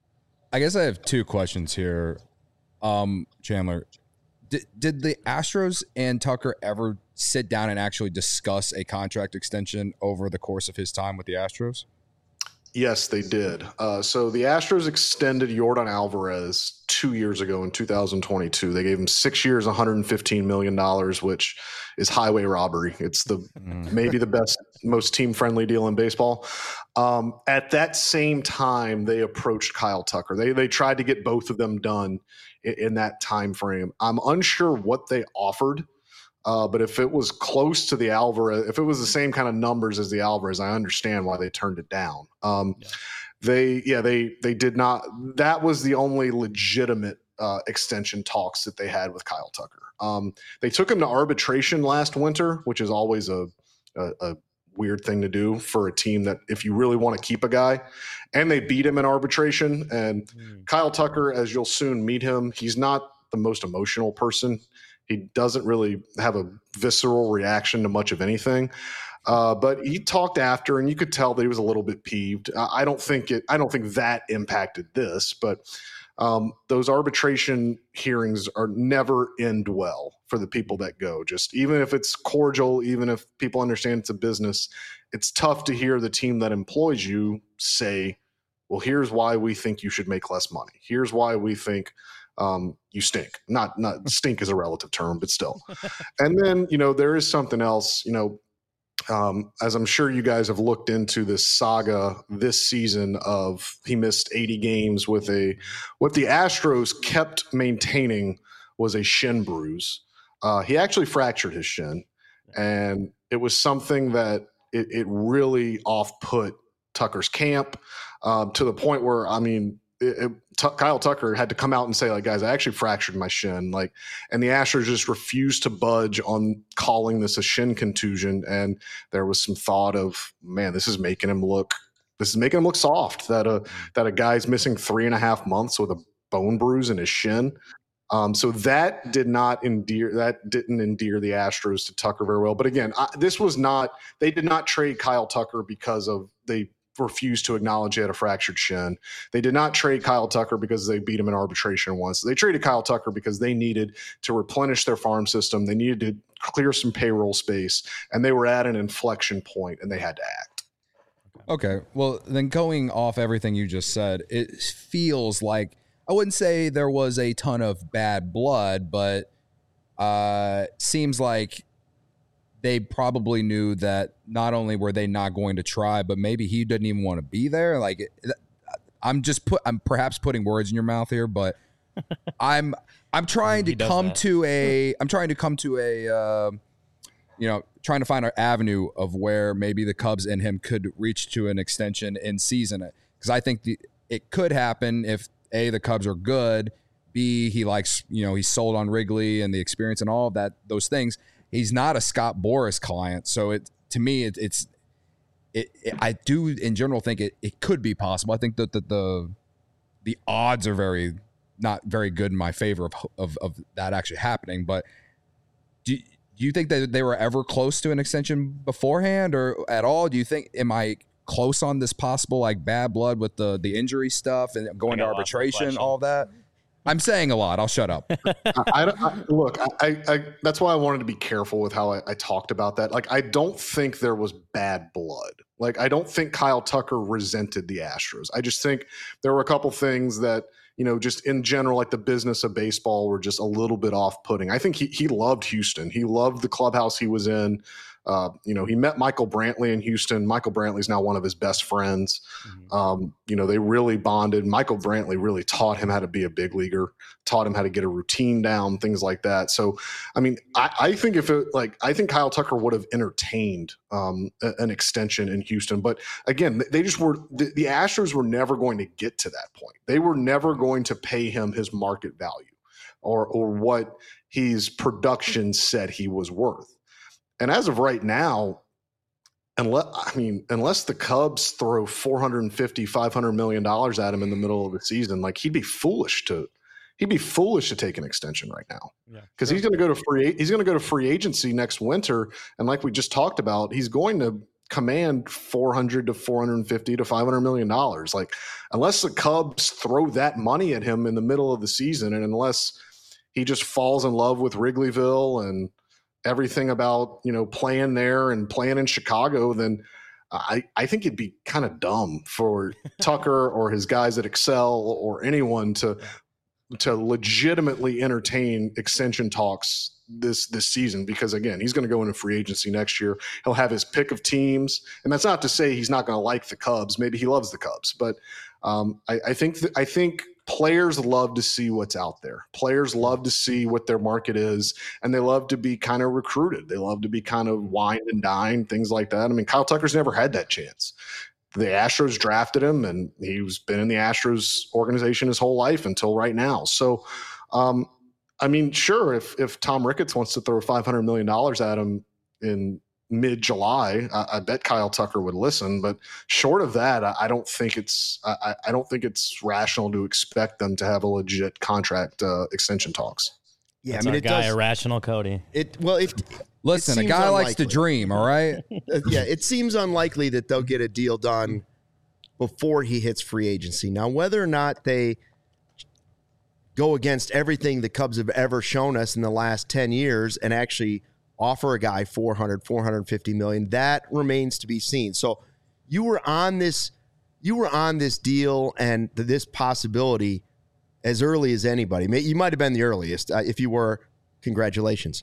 I guess I have 2 questions here. Chandler, did the Astros and Tucker ever sit down and actually discuss a contract extension over the course of his time with the Astros? Yes, they did. So the Astros extended Yordan Alvarez 2 years ago in 2022. They gave him 6 years, $115 million, which is highway robbery. It's maybe the best, most team-friendly deal in baseball. At that same time, they approached Kyle Tucker. They tried to get both of them done in that time frame. I'm unsure what they offered. But if it was close to the Alvarez, if it was the same kind of numbers as the Alvarez, I understand why they turned it down. They did not. That was the only legitimate extension talks that they had with Kyle Tucker. They took him to arbitration last winter, which is always a weird thing to do for a team that if you really want to keep a guy, and they beat him in arbitration. And Kyle Tucker, as you'll soon meet him, he's not the most emotional person. He doesn't really have a visceral reaction to much of anything. But he talked after, and you could tell that he was a little bit peeved. I don't think that impacted this, but those arbitration hearings are never end well for the people that go. Just even if it's cordial, even if people understand it's a business, it's tough to hear the team that employs you say, well, here's why we think you should make less money. Here's why we think you stink. Not stink is a relative term, but still. And then, there is something else, as I'm sure you guys have looked into this saga this season of he missed 80 games what the Astros kept maintaining was a shin bruise. He actually fractured his shin, and it was something that it really off-put Tucker's camp to the point where, Kyle Tucker had to come out and say, like, guys, I actually fractured my shin. And the Astros just refused to budge on calling this a shin contusion. And there was some thought of, man, this is making him look soft, that a guy's missing 3.5 months with a bone bruise in his shin. So that didn't endear the Astros to Tucker very well. But again, they did not trade Kyle Tucker because they refused to acknowledge he had a fractured shin. They did not trade Kyle Tucker because they beat him in arbitration once. They traded Kyle Tucker because they needed to replenish their farm system. They needed to clear some payroll space, and they were at an inflection point, and they had to act. Okay. Well, then going off everything you just said, it feels like, I wouldn't say there was a ton of bad blood, but seems like they probably knew that not only were they not going to try, but maybe he didn't even want to be there. I'm perhaps putting words in your mouth here, but I'm trying to come to a trying to find an avenue of where maybe the Cubs and him could reach to an extension in season, because I think it could happen if A, the Cubs are good, B, he likes, he's sold on Wrigley and the experience and all of that, those things. He's not a Scott Boras client, so I do in general think it could be possible. I think that the odds are not very good in my favor of that actually happening. But do you think that they were ever close to an extension beforehand or at all? Do you think, am I close on this possible like bad blood with the injury stuff and going to arbitration, all that? I'm saying a lot. I'll shut up. Look, that's why I wanted to be careful with how I talked about that. Like, I don't think there was bad blood. Like, I don't think Kyle Tucker resented the Astros. I just think there were a couple things that, just in general, like the business of baseball, were just a little bit off-putting. I think he loved Houston. He loved the clubhouse he was in. He met Michael Brantley in Houston. Michael Brantley's now one of his best friends. They really bonded. Michael Brantley really taught him how to be a big leaguer, taught him how to get a routine down, things like that. So, I mean, I think I think Kyle Tucker would have entertained an extension in Houston. But again, they just were, the Astros were never going to get to that point. They were never going to pay him his market value or what his production said he was worth. And as of right now, unless the Cubs throw $450, $500 million at him in the middle of the season, like he'd be foolish to take an extension right now, because he's going to go to free agency next winter, and like we just talked about, he's going to command $400 to $450 to $500 million. Like, unless the Cubs throw that money at him in the middle of the season, and unless he just falls in love with Wrigleyville and everything about, playing there and playing in Chicago, then I think it'd be kind of dumb for Tucker or his guys at Excel or anyone to legitimately entertain extension talks this season, because again, he's going to go into free agency next year. He'll have his pick of teams, and that's not to say he's not going to like the Cubs. Maybe he loves the Cubs, but I think players love to see what's out there. Players love to see what their market is, and they love to be kind of recruited. They love to be kind of wined and dined, things like that. I mean, Kyle Tucker's never had that chance. The Astros drafted him, and he's been in the Astros organization his whole life until right now. So, sure, if Tom Ricketts wants to throw $500 million at him in mid-July, I bet Kyle Tucker would listen. But short of that, I don't think it's rational to expect them to have a legit contract extension talks. Yeah, that's our guy, irrational Cody. Listen, a guy likes to dream. All right. Yeah, it seems unlikely that they'll get a deal done before he hits free agency. Now, whether or not they go against everything the Cubs have ever shown us in the last 10 years and actually offer a guy $450 million, that remains to be seen. So you were on this deal and this possibility as early as anybody. You might have been the earliest. If you were, congratulations.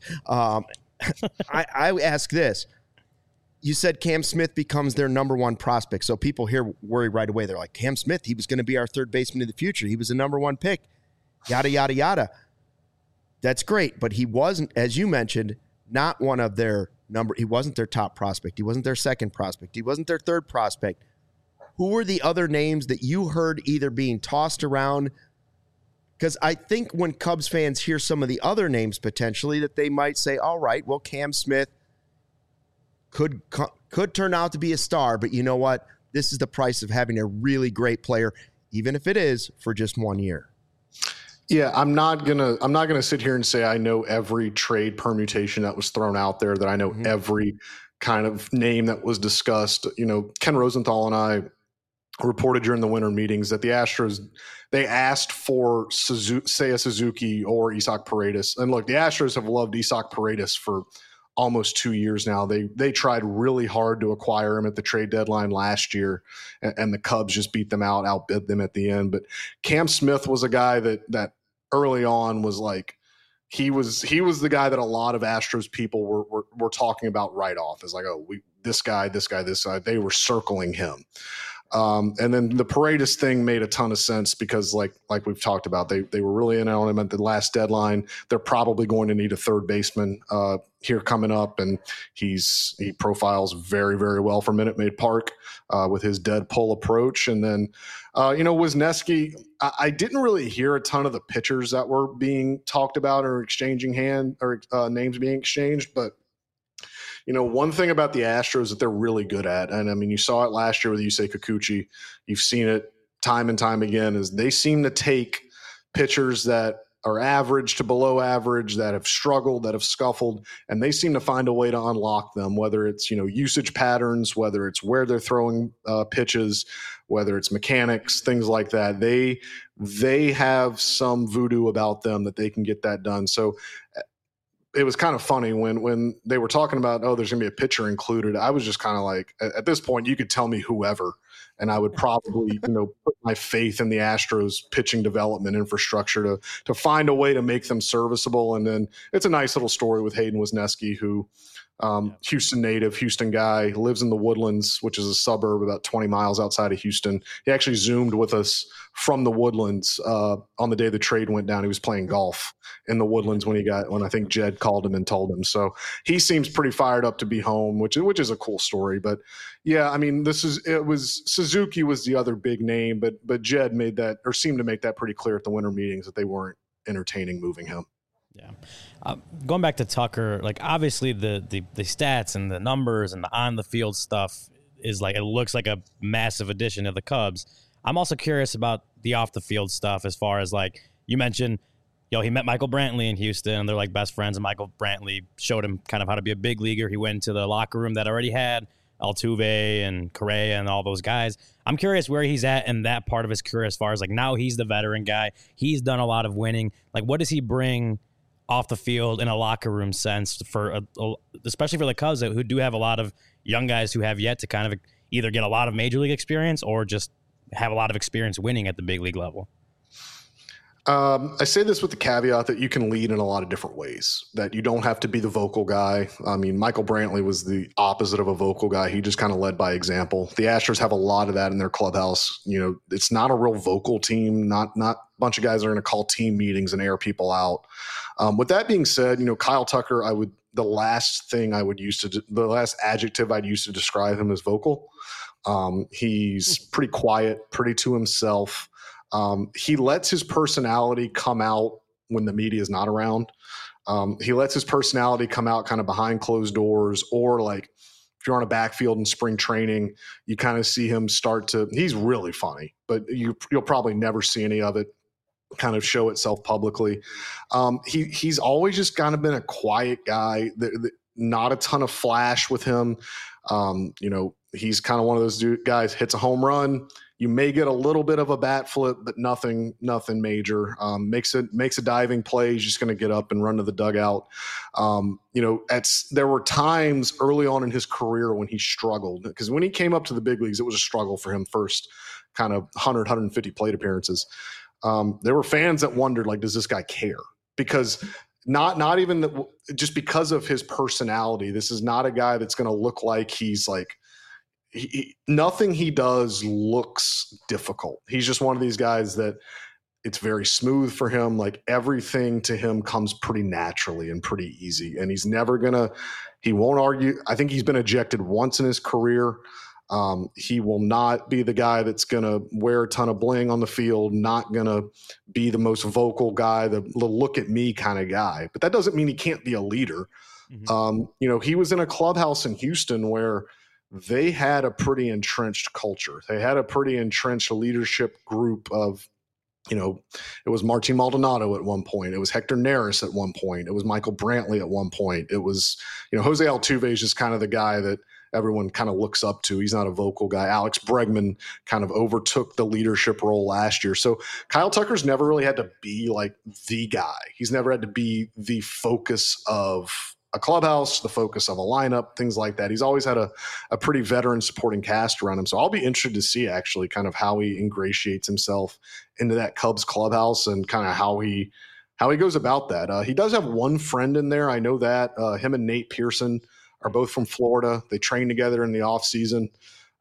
I ask this. You said Cam Smith becomes their number one prospect. So people here worry right away. They're like, Cam Smith, he was going to be our third baseman in the future. He was the number one pick. Yada, yada, yada. That's great. But he wasn't, as you mentioned, not one of their he wasn't their top prospect. He wasn't their second prospect. He wasn't their third prospect. Who were the other names that you heard either being tossed around? Because I think when Cubs fans hear some of the other names potentially, that they might say, all right, well, Cam Smith could turn out to be a star, but you know what? This is the price of having a really great player, even if it is for just 1 year. Yeah, I'm not gonna sit here and say I know every trade permutation that was thrown out there, that I know every kind of name that was discussed. Ken Rosenthal and I reported during the winter meetings that the Astros, they asked for Seiya Suzuki or Isaac Paredes. And look, the Astros have loved Isaac Paredes for almost 2 years now. They tried really hard to acquire him at the trade deadline last year, and the Cubs just outbid them at the end. But Cam Smith was a guy that early on was like, he was the guy that a lot of Astros people were talking about right off as like, oh, this guy. They were circling him. And then the Paredes thing made a ton of sense because, like we've talked about, they were really in on him at the last deadline. They're probably going to need a third baseman here coming up, and he profiles very, very well for Minute Maid Park with his dead pull approach. And then, Wisniewski, I didn't really hear a ton of the pitchers that were being talked about or exchanging names being exchanged, but one thing about the Astros that they're really good at, and I mean, you saw it last year with Yusei Kikuchi, you've seen it time and time again, is they seem to take pitchers that are average to below average, that have struggled, that have scuffled, and they seem to find a way to unlock them, whether it's, usage patterns, whether it's where they're throwing pitches, whether it's mechanics, things like that. They have some voodoo about them that they can get that done. So it was kind of funny when they were talking about, there's going to be a pitcher included. I was just kind of like, at this point, you could tell me whoever, and I would probably, put my faith in the Astros pitching development infrastructure to find a way to make them serviceable. And then it's a nice little story with Hayden Wisniewski, who Houston native, Houston guy, lives in the Woodlands, which is a suburb about 20 miles outside of Houston. He actually Zoomed with us from the Woodlands on the day the trade went down. He was playing golf in the Woodlands when I think Jed called him and told him. So he seems pretty fired up to be home, which is a cool story. But yeah, I mean, Suzuki was the other big name, but Jed seemed to make that pretty clear at the winter meetings that they weren't entertaining moving him. Yeah. Going back to Tucker, like obviously the stats and the numbers and the on the field stuff is like, it looks like a massive addition to the Cubs. I'm also curious about the off the field stuff, as far as, like you mentioned, he met Michael Brantley in Houston and they're like best friends, and Michael Brantley showed him kind of how to be a big leaguer. He went into the locker room that already had Altuve and Correa and all those guys. I'm curious where he's at in that part of his career, as far as like now he's the veteran guy. He's done a lot of winning. Like, what does he bring off the field in a locker room sense especially for the Cubs, who do have a lot of young guys who have yet to kind of either get a lot of major league experience or just have a lot of experience winning at the big league level? I say this with the caveat that you can lead in a lot of different ways, that you don't have to be the vocal guy. I mean, Michael Brantley was the opposite of a vocal guy. He just kind of led by example. The Astros have a lot of that in their clubhouse. It's not a real vocal team, not a bunch of guys are going to call team meetings and air people out. With that being said, Kyle Tucker, the last adjective I'd use to describe him is vocal. He's pretty quiet, pretty to himself. He lets his personality come out when the media is not around. He lets his personality come out kind of behind closed doors, or like if you're on a backfield in spring training, you kind of see him he's really funny, but you'll probably never see any of it kind of show itself publicly. He's always just kind of been a quiet guy, not a ton of flash with him. He's kind of one of those guys, hits a home run, you may get a little bit of a bat flip, but nothing major. Makes a diving play, he's just going to get up and run to the dugout. There were times early on in his career when he struggled, because when he came up to the big leagues, it was a struggle for him first kind of 150 plate appearances. There were fans that wondered, like, does this guy care? Because not even just because of his personality. This is not a guy that's going to look like he's like, nothing he does looks difficult. He's just one of these guys that it's very smooth for him. Like, everything to him comes pretty naturally and pretty easy. And he won't argue. I think he's been ejected once in his career. He will not be the guy that's going to wear a ton of bling on the field, not going to be the most vocal guy, the look at me kind of guy. But that doesn't mean he can't be a leader. Mm-hmm. He was in a clubhouse in Houston where they had a pretty entrenched culture. They had a pretty entrenched leadership group of, it was Martin Maldonado at one point. It was Hector Neris at one point. It was Michael Brantley at one point. It was, Jose Altuve is just kind of the guy that everyone kind of looks up to. He's not a vocal guy. Alex Bregman kind of overtook the leadership role last year. So Kyle Tucker's never really had to be like the guy. He's never had to be the focus of a clubhouse, the focus of a lineup, things like that. He's always had a pretty veteran supporting cast around him. So I'll be interested to see actually kind of how he ingratiates himself into that Cubs clubhouse and kind of how he goes about that. He does have one friend in there. I know that him and Nate Pearson are both from Florida. They train together in the off season.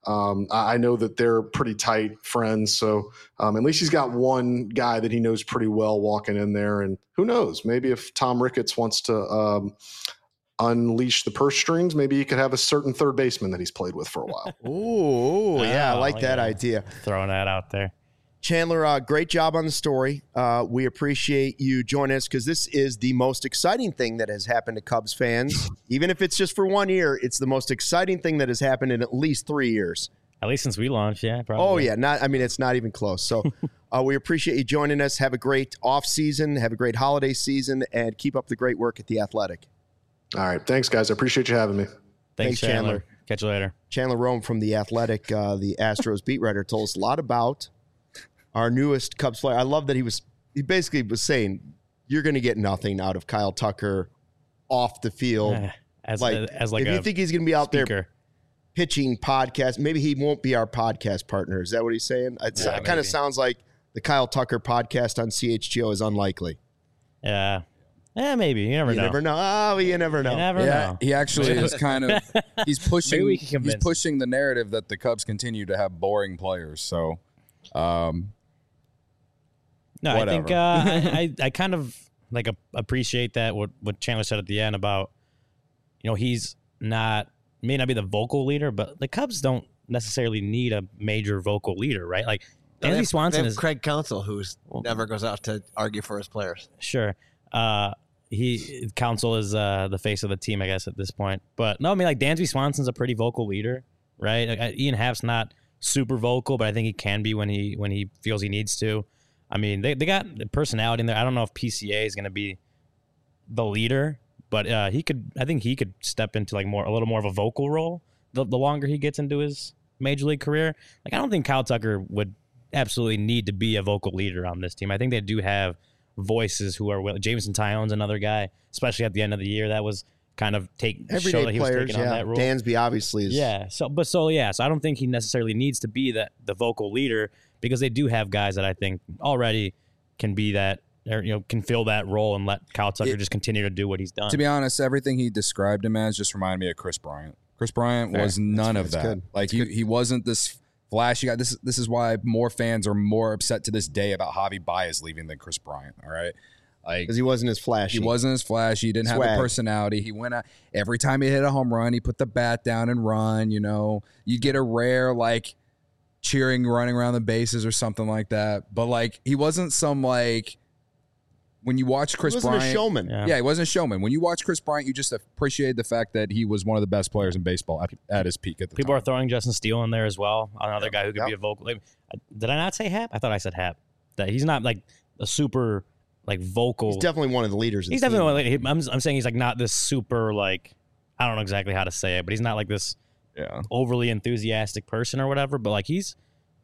I know that they're pretty tight friends, so at least he's got one guy that he knows pretty well walking in there. And who knows, maybe if Tom Ricketts wants to unleash the purse strings, maybe he could have a certain third baseman that he's played with for a while. Ooh, yeah, I like that idea. Throwing that out there. Chandler, great job on the story. We appreciate you joining us because this is the most exciting thing that has happened to Cubs fans. Even if it's just for 1 year, it's the most exciting thing that has happened in at least 3 years. At least since we launched, yeah. Probably. Oh, yeah. It's not even close. So we appreciate you joining us. Have a great off season. Have a great holiday season. And keep up the great work at The Athletic. All right. Thanks, guys. I appreciate you having me. Thanks, Chandler. Catch you later. Chandler Rome from The Athletic, the Astros beat writer, told us a lot about our newest Cubs player. I love that he basically was saying, you're going to get nothing out of Kyle Tucker off the field. As if you think he's going to be out there pitching podcast, maybe he won't be our podcast partner. Is that what he's saying? It kind of sounds like the Kyle Tucker podcast on CHGO is unlikely. Yeah. Yeah, maybe. You never know. You never know. Oh, you never know. You never know. He actually is kind of he's pushing Maybe we can convince he's pushing the narrative that the Cubs continue to have boring players. So no, whatever. I think I kind of like appreciate that what Chandler said at the end about, he's may not be the vocal leader, but the Cubs don't necessarily need a major vocal leader, right? Like Dansby Swanson is Craig Counsell, who's never goes out to argue for his players. Sure. Counsell is the face of the team, I guess, at this point. But no, I mean, like Dansby Swanson's a pretty vocal leader, right? Like, Ian Happ's not super vocal, but I think he can be when he feels he needs to. I mean, they got the personality in there. I don't know if PCA is going to be the leader, but I think he could step into like a little more of a vocal role the longer he gets into his major league career. Like, I don't think Kyle Tucker would absolutely need to be a vocal leader on this team. I think they do have voices who are willing. Jameson Tyone's another guy, especially at the end of the year, that was kind of everyday players. On that role. Dansby obviously is. Yeah. So I don't think he necessarily needs to be the vocal leader, because they do have guys that I think already can be that, or can fill that role and let Kyle Tucker just continue to do what he's done. To be honest, everything he described him as just reminded me of Chris Bryant. Chris Bryant was none of that. Good. Like he wasn't this flashy guy. This is why more fans are more upset to this day about Javi Baez leaving than Chris Bryant. All right. Like, because he wasn't as flashy. He didn't have a personality. He went out every time he hit a home run, he put the bat down and run. You get a rare cheering, running around the bases or something like that. But he wasn't some when you watch Chris Bryant, he wasn't a showman. Yeah, he wasn't a showman. When you watch Chris Bryant, you just appreciate the fact that he was one of the best players in baseball at his peak at the time. People are throwing Justin Steele in there as well. Another guy who could be a vocal. Did I not say Happ? I thought I said Happ. That he's not a super vocal. He's definitely one of the leaders. He's definitely I'm saying he's not this super I don't know exactly how to say it, but he's not this overly enthusiastic person or whatever. But he's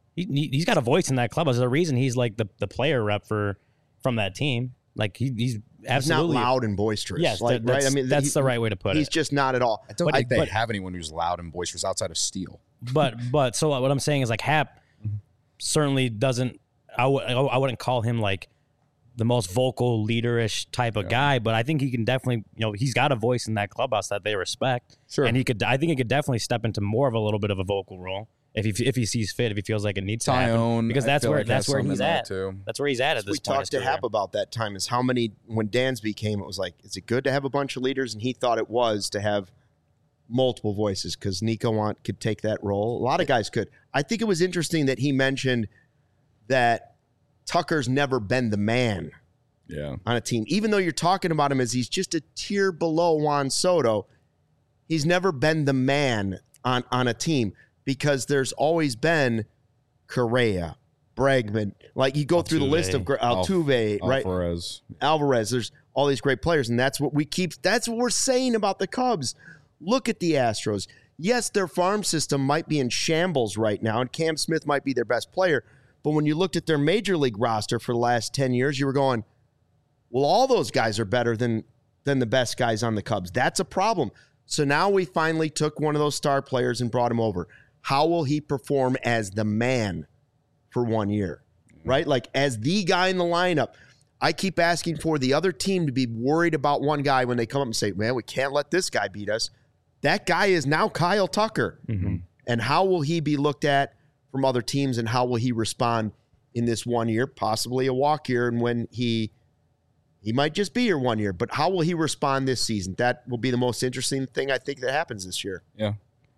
got a voice in that club. There's a reason he's the player rep from that team. He's absolutely not loud and boisterous. Yes, right. I mean, that's the right way to put it. He's just not at all. I don't think they have anyone who's loud and boisterous outside of Steele. But so what I'm saying is Happ certainly doesn't. I wouldn't call him the most vocal leaderish type of guy, but I think he can definitely, he's got a voice in that clubhouse that they respect. Sure. And I think he could definitely step into more of a little bit of a vocal role if he sees fit, if he feels like it needs to happen. Because that's where he's at. That's where he's at this point. We talked to Happ about that time, is how many, when Dansby came, it was is it good to have a bunch of leaders? And he thought it was to have multiple voices, because Nico Want could take that role. A lot of guys could. I think it was interesting that he mentioned that Tucker's never been the man on a team. Even though you're talking about him as he's just a tier below Juan Soto, he's never been the man on a team, because there's always been Correa, Bregman. You go through the list of Altuve, right? Alvarez. There's all these great players, and that's what we're saying about the Cubs. Look at the Astros. Yes, their farm system might be in shambles right now, and Cam Smith might be their best player. But when you looked at their major league roster for the last 10 years, you were going, well, all those guys are better than the best guys on the Cubs. That's a problem. So now we finally took one of those star players and brought him over. How will he perform as the man for 1 year, right? As the guy in the lineup. I keep asking for the other team to be worried about one guy when they come up and say, man, we can't let this guy beat us. That guy is now Kyle Tucker. Mm-hmm. And how will he be looked at from other teams, and how will he respond in this 1 year, possibly a walk year, and when he might just be here 1 year, but how will he respond this season? That will be the most interesting thing I think that happens this year. Yeah.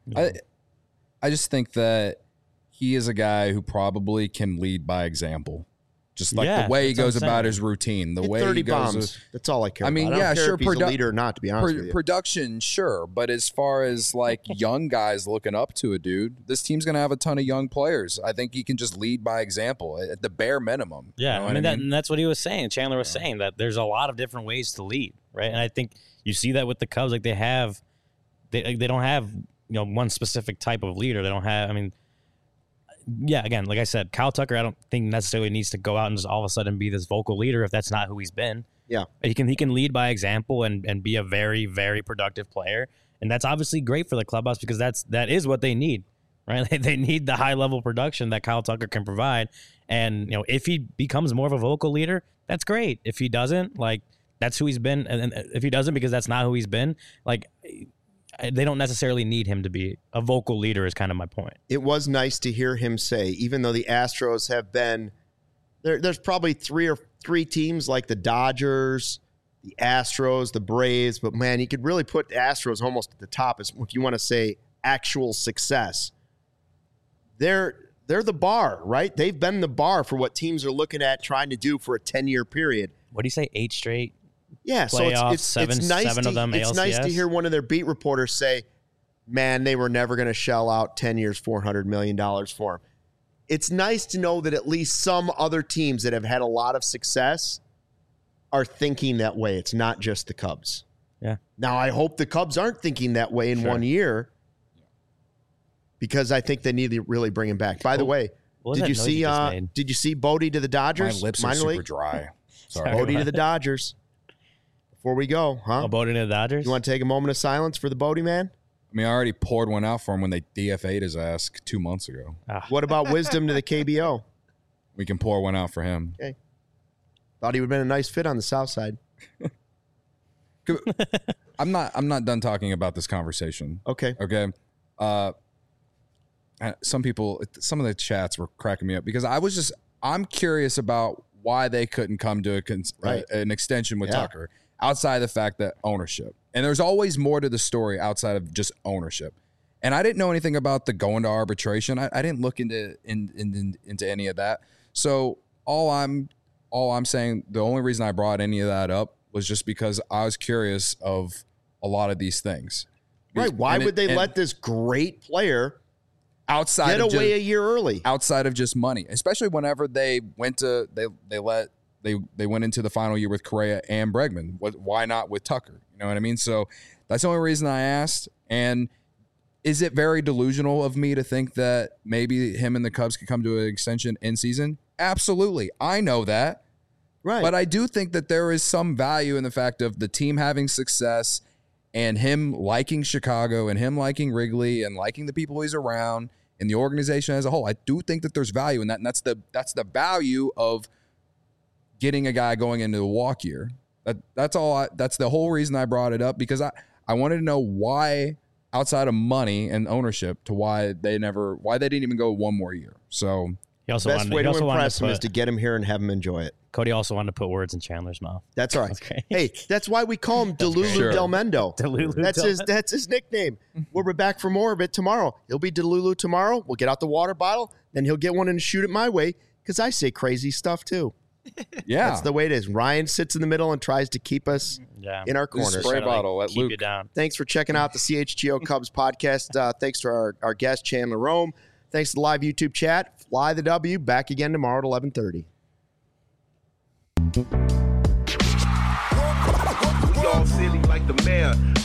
I just think that he is a guy who probably can lead by example. Just like the way he goes about his routine, the way 30 he goes. bombs. That's all I care about. I mean, I don't care sure, if he's a leader or not, to be honest with you. Production, sure. But as far as like young guys looking up to a dude, this team's going to have a ton of young players. I think he can just lead by example at the bare minimum. Yeah, you know and that's what he was saying. Chandler was saying that there's a lot of different ways to lead, right? And I think you see that with the Cubs. Like they don't have one specific type of leader. They don't have. I mean. Yeah, again, like I said, Kyle Tucker, I don't think necessarily needs to go out and just all of a sudden be this vocal leader if that's not who he's been. Yeah. He can lead by example and be a very, very productive player. And that's obviously great for the clubhouse because that is what they need, right? They need the high level production that Kyle Tucker can provide. And, if he becomes more of a vocal leader, that's great. If he doesn't, like, that's who he's been. And if he doesn't because that's not who he's been, like, they don't necessarily need him to be a vocal leader is kind of my point. It was nice to hear him say, even though the Astros have been there's probably three teams like the Dodgers, the Astros, the Braves, but man, you could really put the Astros almost at the top if you want to say actual success. They're the bar, right? They've been the bar for what teams are looking at trying to do for a 10-year period. What do you say, 8 straight? Yeah, playoffs, so it's nice seven of them it's ALCS. nice to hear one of their beat reporters say, man, they were never going to shell out 10 years, $400 million for him. It's nice to know that at least some other teams that have had a lot of success are thinking that way. It's not just the Cubs. Yeah. Now, I hope the Cubs aren't thinking that way in 1 year because I think they need to really bring him back. By the way, did you see Bodie to the Dodgers? My lips are super dry. Sorry. Bodie to the Dodgers. Before we go, huh? Bodie to the Dodgers? You want to take a moment of silence for the Bodie man? I mean, I already poured one out for him when they DFA'd his ass 2 months ago. What about wisdom to the KBO? We can pour one out for him. Okay. Thought he would have been a nice fit on the south side. I'm not done talking about this conversation. Okay. Okay. Some of the chats were cracking me up because I'm curious about why they couldn't come to an extension with Tucker outside of the fact that ownership. And there's always more to the story outside of just ownership. And I didn't know anything about the going to arbitration. I didn't look into any of that. So all I'm saying, the only reason I brought any of that up was just because I was curious of a lot of these things. Right. Why would they let this great player get away a year early? Outside of just money, especially whenever they went to they went into the final year with Correa and Bregman. Why not with Tucker? You know what I mean? So that's the only reason I asked. And is it very delusional of me to think that maybe him and the Cubs could come to an extension in season? Absolutely. I know that. Right. But I do think that there is some value in the fact of the team having success and him liking Chicago and him liking Wrigley and liking the people he's around and the organization as a whole. I do think that there's value in that. And that's the value of getting a guy going into a walk year. That's the whole reason I brought it up, because I wanted to know why, outside of money and ownership, to why they didn't even go one more year. So the best way to impress him is to get him here and have him enjoy it. Cody also wanted to put words in Chandler's mouth. That's all right. Okay. Hey, that's why we call him Delulu Del Mendo. That's his nickname. We'll be back for more of it tomorrow. He'll be Delulu tomorrow. We'll get out the water bottle. Then he'll get one and shoot it my way because I say crazy stuff too. Yeah. That's the way it is. Ryan sits in the middle and tries to keep us in our corner. Spray bottle at keep Luke. You down. Thanks for checking out the CHGO Cubs podcast. Thanks to our guest, Chandler Rome. Thanks to the live YouTube chat. Fly the W. Back again tomorrow at 11:30. We all silly like the mayor.